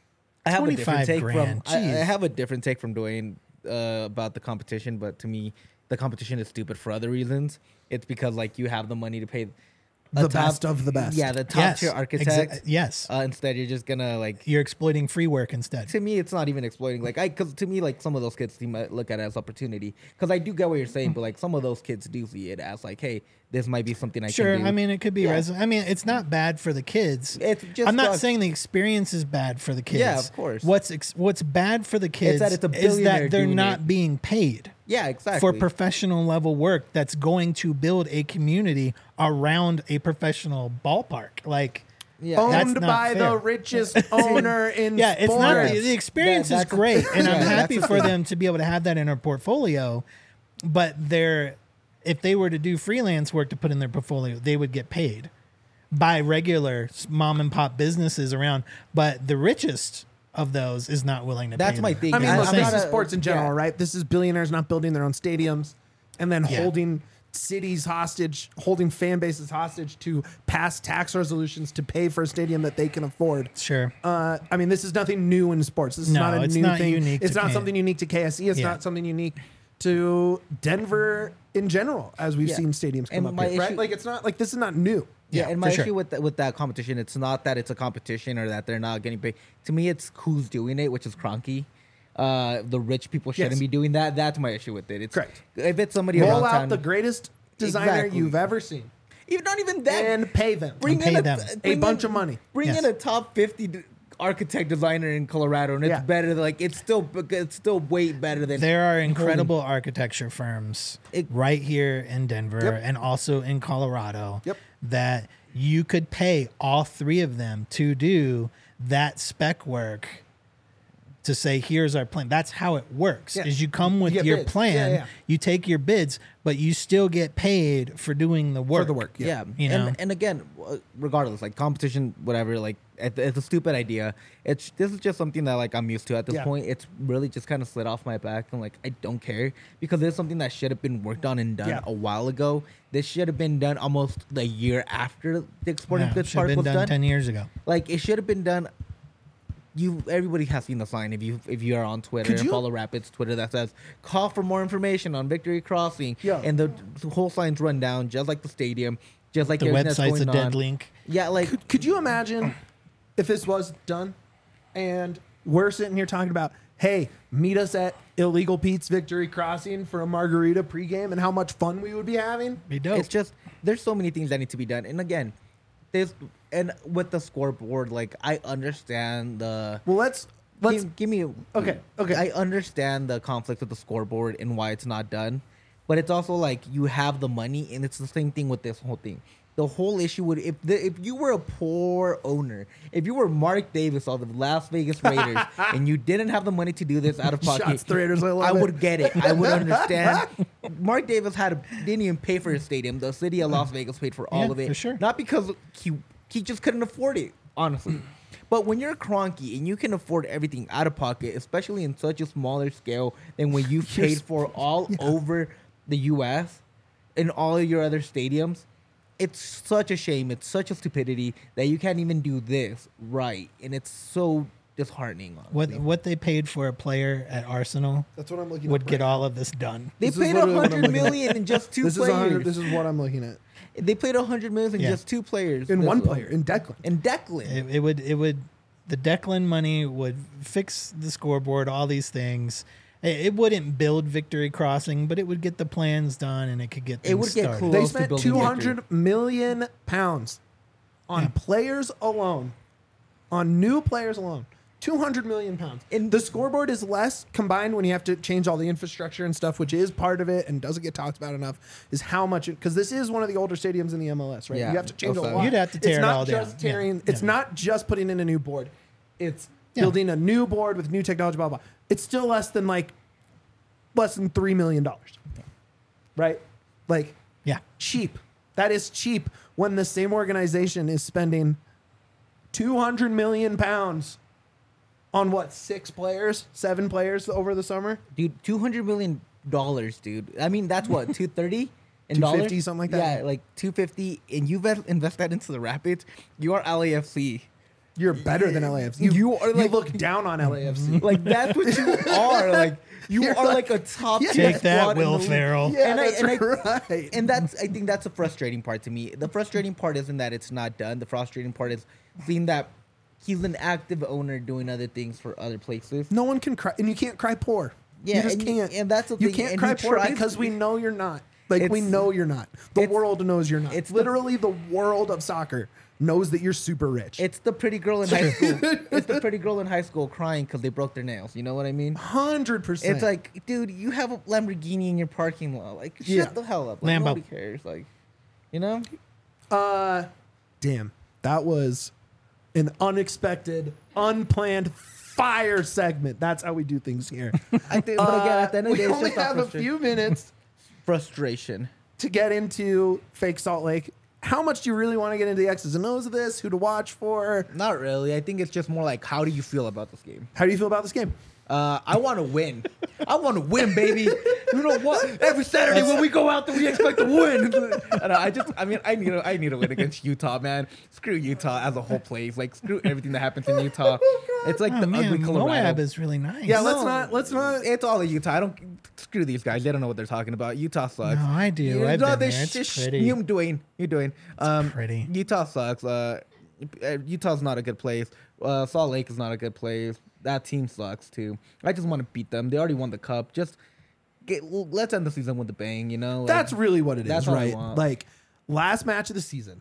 I have a different twenty-five take grand, from I, I jeez. have a different take from Dwayne uh, about the competition, but to me, the competition is stupid for other reasons. It's because like you have the money to pay a The top- best of the best. Yeah, the top Yes, tier exa- architect. yes, Uh, instead, you're just gonna like you're exploiting free work instead. to me, it's not even exploiting. Like, I, because to me, like some of those kids seem to look at it as opportunity. Because I do get what you're saying, but like some of those kids do see it as like, hey, this might be something I Sure, can do. I mean it could be. Yeah. Res- I mean it's not bad for the kids. It's just I'm not sucks. saying the experience is bad for the kids. Yeah, of course. What's ex- what's bad for the kids that it's a is billionaire that they're doing not it. being paid yeah, exactly. for professional level work that's going to build a community around a professional ballpark. Like Yeah. owned That's not by the fair. richest owner in Yeah, it's not. sports. The experience That- is that's a- great, and I'm yeah, happy that's a for thing. them to be able to have that in their portfolio. But they're, if they were to do freelance work to put in their portfolio, they would get paid by regular mom and pop businesses around. But the richest of those is not willing to. That's pay my them. thing. I mean, I- look, I'm this not is a- sports in general, yeah. right? This is billionaires not building their own stadiums and then Yeah. holding cities hostage, holding fan bases hostage to pass tax resolutions to pay for a stadium that they can afford. Sure. Uh, I mean, this is nothing new in sports. This is No, not a it's new not thing. unique It's to not K- something unique to K S E. It's Yeah. not something unique to Denver in general, as we've Yeah. seen stadiums come And up my here, right? issue- Like, it's not like this is not new. Yeah, Yeah, and my for issue sure. with that, with that competition, it's not that it's a competition or that they're not getting paid. To me, it's who's doing it, which is Cronky. Uh, the rich people shouldn't Yes. be doing that. That's my issue with it. It's Correct. If it's somebody Roll around out town, the greatest designer Exactly. you've ever seen even not even that, and pay them. bring And in pay a, them. th- A bring bunch in- of money. Bring Yes. in a top fifty d- architect designer in Colorado, and it's Yeah. better. Than, like it's still it's still way better than There are holding- incredible architecture firms It- right here in Denver Yep. and also in Colorado Yep. that you could pay all three of them to do that spec work to say, here's our plan. That's how it works. Yeah. Is you come with You get your bids. plan, Yeah, yeah. you take your bids, but you still get paid for doing the work. For the work. Yeah, You and know? and again, uh, regardless, like competition, whatever, like it, it's a stupid idea. It's this is just something that like I'm used to at this Yeah. point. It's really just kind of slid off my back, and like I don't care because it's something that should have been worked on and done Yeah. a while ago. This should have been done almost the year after the Sporting Yeah, Goods should have Park been was done, done. ten years ago. Like it should have been done. You everybody has seen the sign if you if you are on Twitter Could and you- follow Rapids Twitter that says call for more information on Victory Crossing. Yeah. And the, the whole sign's run down just like the stadium, just like The everything that's website's a going dead on. link. Yeah, like Could, could you imagine if this was done and we're sitting here talking about, hey, meet us at Illegal Pete's Victory Crossing for a margarita pregame and how much fun we would be having? Be dope. it's just there's so many things that need to be done. And again, there's and with the scoreboard, like I understand the Well, let's let's give, give me Okay, okay. I understand the conflict with the scoreboard and why it's not done, but it's also like you have the money, and it's the same thing with this whole thing. The whole issue would if the, if you were a poor owner, if you were Mark Davis of the Las Vegas Raiders, and you didn't have the money to do this out of pocket, Shots to Raiders, I love I it. would get it. I would understand. Mark Davis had a, didn't even pay for his stadium. The city of Las Vegas paid for all Yeah, of it, for sure. not because he he just couldn't afford it, honestly. But when you're Cronky and you can afford everything out of pocket, especially in such a smaller scale than when you've You're paid sp- for all over the U S and all of your other stadiums, it's such a shame. It's such a stupidity that you can't even do this right. And it's so disheartening. what Honestly. what they paid for a player at Arsenal That's what I'm looking would up get right all of this done. They This is paid a literally what I'm hundred looking at. million in just two This is a hundred, players. this is what I'm looking at. They played a hundred million in Yeah. just two players. In That's one all. player, in Declan. In Declan. It, it would it would the Declan money would fix the scoreboard, all these things. It, it wouldn't build Victory Crossing, but it would get the plans done and it could get things It would get started. cool. They Close to spent building two hundred million pounds on Yeah. players alone, on new players alone. two hundred million pounds. And- the scoreboard is less combined when you have to change all the infrastructure and stuff, which is part of it and doesn't get talked about enough, is how much it, because this is one of the older stadiums in the M L S, right? Yeah. You have to change a Also- lot. You'd have to tear it's it not all just down. Yeah. tearing, It's Yeah. not just putting in a new board. It's Yeah. building a new board with new technology, blah, blah. It's still less than like, less than three million dollars. Right? Like, Yeah. cheap. That is cheap when the same organization is spending two hundred million pounds on what, six players, seven players over the summer? Dude, two hundred million dollars, dude. I mean, that's what two thirty in two dollars, fifty, something like that? Yeah, like two fifty, and you vet- invest that into the Rapids. You are L A F C. You're better than L A F C. You, You are like- you look down on L A F C. Like that's what you are. Like you You're are like- like, a top. Yeah. tier Take that, squad in Will the league. Ferrell. Yeah, And I- that's and I- right. And that's I think that's the frustrating part to me. The frustrating part isn't that it's not done. The frustrating part is seeing that he's an active owner doing other things for other places. no one can cry, and you can't cry poor. Yeah, you just and- can't. and that's the you thing, can't and cry he poor tries because to- we know you're not. Like we It's- know you're not. The it's- world knows you're not. it's It's the- literally the, world of soccer knows that you're super rich. It's the pretty girl in high school. It's the pretty girl in high school crying because they broke their nails. You know what I mean? Hundred percent. It's like, dude, you have a Lamborghini in your parking lot. Like, shut Yeah. the hell up. Like, Lambo. nobody cares. Like, you know? Uh, damn, that was an unexpected, unplanned fire segment. That's how we do things here. I think, but again, at the end of the we day, it's only just have a frustra- few minutes frustration. to get into Fake Salt Lake. How much do you really want to get into the X's and O's of this? Who to watch for? Not really. I think it's just more like, how do you feel about this game? How do you feel about this game? Uh, I want to win. I want to win, baby. You know what? Every Saturday when we go out there, we expect to win. And I just, I mean, I need, to, I need to win against Utah, man. Screw Utah as a whole place. Like, screw everything that happens in Utah. It's like Oh, the man, ugly Moab Colorado. is really nice. Yeah, let's not. Let's not. It's all of Utah. I don't screw these guys. They don't know what they're talking about. Utah sucks. No, I do. You I've know, been they there. It's sh- pretty. You're doing. You're doing. Um, pretty. Utah sucks. Uh, Utah's not a good place. Uh, Salt Lake is not a good place. That team sucks too. I just want to beat them. They already won the cup. Just get. Let's end the season with a bang. You know. Like, That's really what it that's is, all I right? want. Like last match of the season.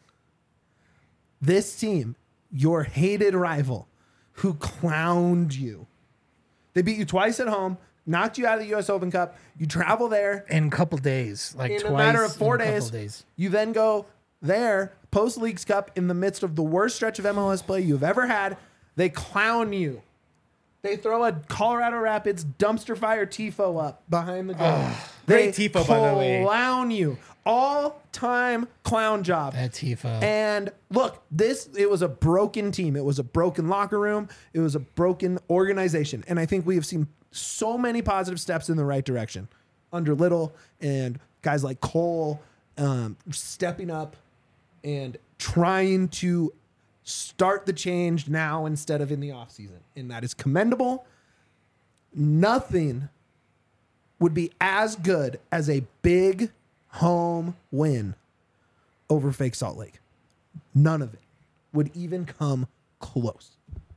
This team, your hated rival, who clowned you. They beat you twice at home, knocked you out of the U S Open Cup. You travel there in a couple days, like in twice a matter of four in a couple days. days. You then go there, post Leagues Cup, in the midst of the worst stretch of M L S play you've ever had. They clown you. They throw a Colorado Rapids dumpster fire tifo up behind the goal. They great tifo, by the way. clown you. All-time clown job. That Tifo. And look, this, it was a broken team. It was a broken locker room. It was a broken organization. And I think we have seen so many positive steps in the right direction under Little and guys like Cole um, stepping up and trying to start the change now instead of in the offseason. And that is commendable. Nothing would be as good as a big home win over Fake Salt Lake. None of it would even come close.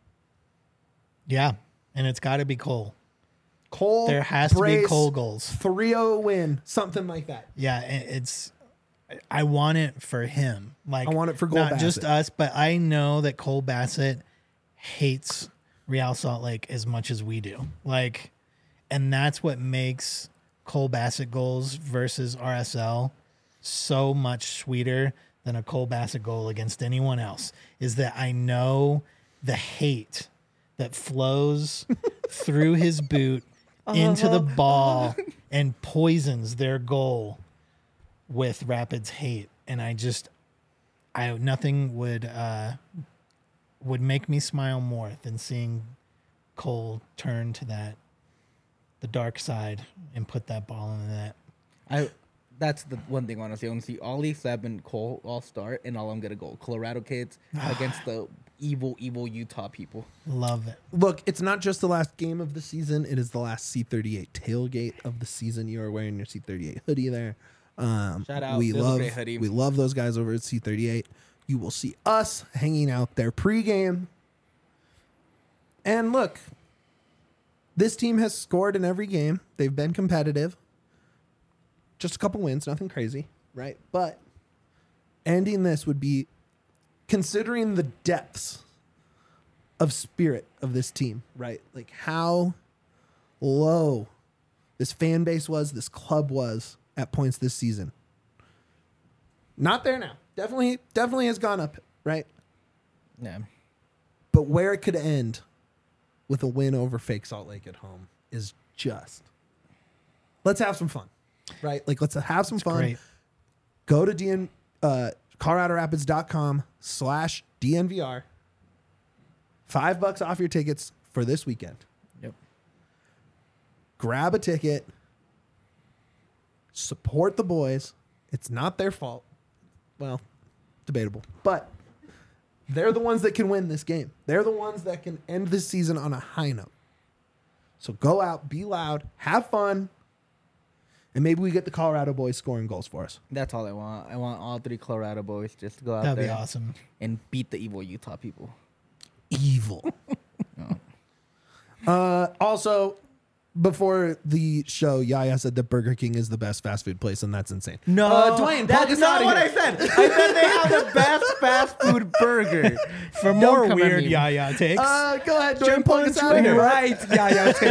Yeah, and it's got to be Cole. Cole, There has to be Brace, Cole goals. three oh win, something like that. Yeah, it- it's. I want it for him. Like I want it for Cole not just Bassett. us, but I know that Cole Bassett hates Real Salt Lake as much as we do. Like, and that's what makes Cole Bassett goals versus R S L so much sweeter than a Cole Bassett goal against anyone else. Is that I know the hate that flows through his boot into the ball and poisons their goal with Rapids hate. And I just, I nothing would uh, would make me smile more than seeing Cole turn to that the dark side and put that ball in the net. I. That's the one thing, honestly. I want to see Ollie, Seb, and Cole all start, and all I'm gonna go Colorado kids against the evil, evil Utah people. Love it. Look, it's not just the last game of the season. It is the last C thirty-eight tailgate of the season. You are wearing your C thirty-eight hoodie there. Um, Shout out. We This is a love great hoodie. we love those guys over at C thirty-eight. You will see us hanging out there pregame. And look, this team has scored in every game. They've been competitive. Just a couple wins, nothing crazy, right? But ending this would be, considering the depths of spirit of this team, right? Like how low this fan base was, this club was at points this season. Not there now. Definitely, definitely has gone up, right? Yeah. But where it could end with a win over Fake Salt Lake at home is just, let's have some fun, right? Like let's have some fun. Great. Go to D N, uh, Colorado Rapids dot com slash D N V R. Five bucks off your tickets for this weekend. Yep. Grab a ticket. Support the boys. It's not their fault. Well, debatable. But they're the ones that can win this game. They're the ones that can end this season on a high note. So go out, be loud, have fun, and maybe we get the Colorado boys scoring goals for us. That's all I want. I want all three Colorado boys just to go out That'd there be awesome. and beat the evil Utah people. Evil. uh, also, before the show, Yaya said that Burger King is the best fast food place, and that's insane. No, uh, Dwayne, plug that's us not outta what here. I said. I said they have the best fast food burger. For Don't more come at weird me. Yaya takes, Uh, go ahead, Dwayne, Jump plug on us out of Twitter, here. right? Yeah,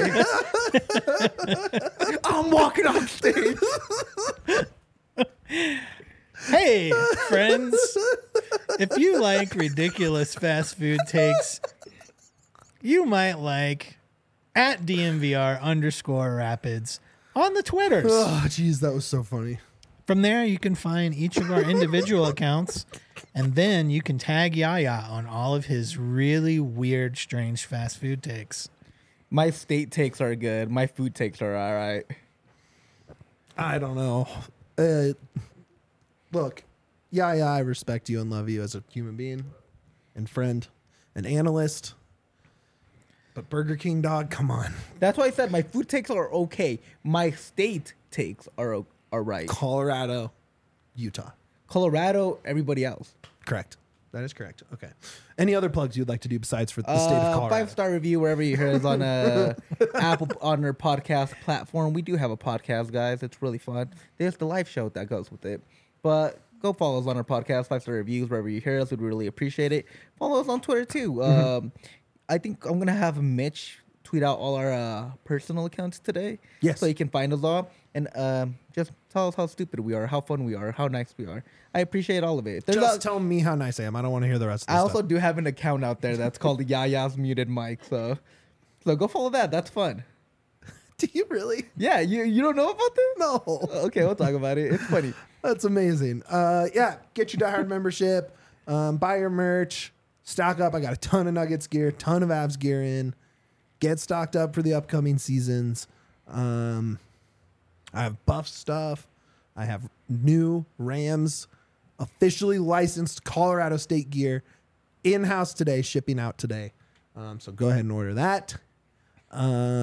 yeah. Take. I'm walking off stage. hey, friends, if you like ridiculous fast food takes, you might like at D M V R underscore Rapids on the Twitters. Oh, jeez, that was so funny. From there, you can find each of our individual accounts, and then you can tag Yaya on all of his really weird, strange fast food takes. My state takes are good. My food takes are all right. I don't know. Uh, look, yeah, yeah, I respect you and love you as a human being and friend and analyst. But Burger King, dog, come on. That's why I said my food takes are okay. My state takes are o- are right. Colorado, Utah. Colorado, everybody else. Correct. That is correct. Okay. Any other plugs you'd like to do besides for the state of Colorado? Five star review wherever you hear us on a Apple on our podcast platform. We do have a podcast, guys. It's really fun. There's the live show that goes with it. But go follow us on our podcast. Five star reviews wherever you hear us. We'd really appreciate it. Follow us on Twitter too. Mm-hmm. Um, I think I'm gonna have Mitch tweet out all our uh, personal accounts today. Yes. So you can find us all and um, just tell us how stupid we are, how fun we are, how nice we are. I appreciate all of it. There's Just a- tell me how nice I am. I don't want to hear the rest of this I also stuff. do have an account out there that's called Yaya's Muted Mic, so so go follow that. That's fun. Do you really? Yeah, you you don't know about this? No. Okay, we'll talk about it. It's funny. That's amazing. Uh, yeah, get your Die Hard membership. Um, buy your merch. Stock up. I got a ton of Nuggets gear, ton of Avs gear in. Get stocked up for the upcoming seasons. Um, I have Buff stuff. I have new Rams officially licensed Colorado State gear in-house today, shipping out today. Um, so go ahead and order that. Uh,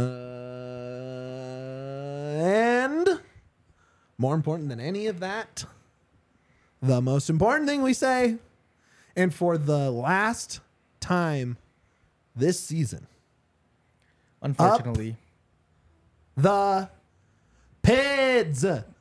and more important than any of that, the most important thing we say, and for the last time this season, Unfortunately. the Pids.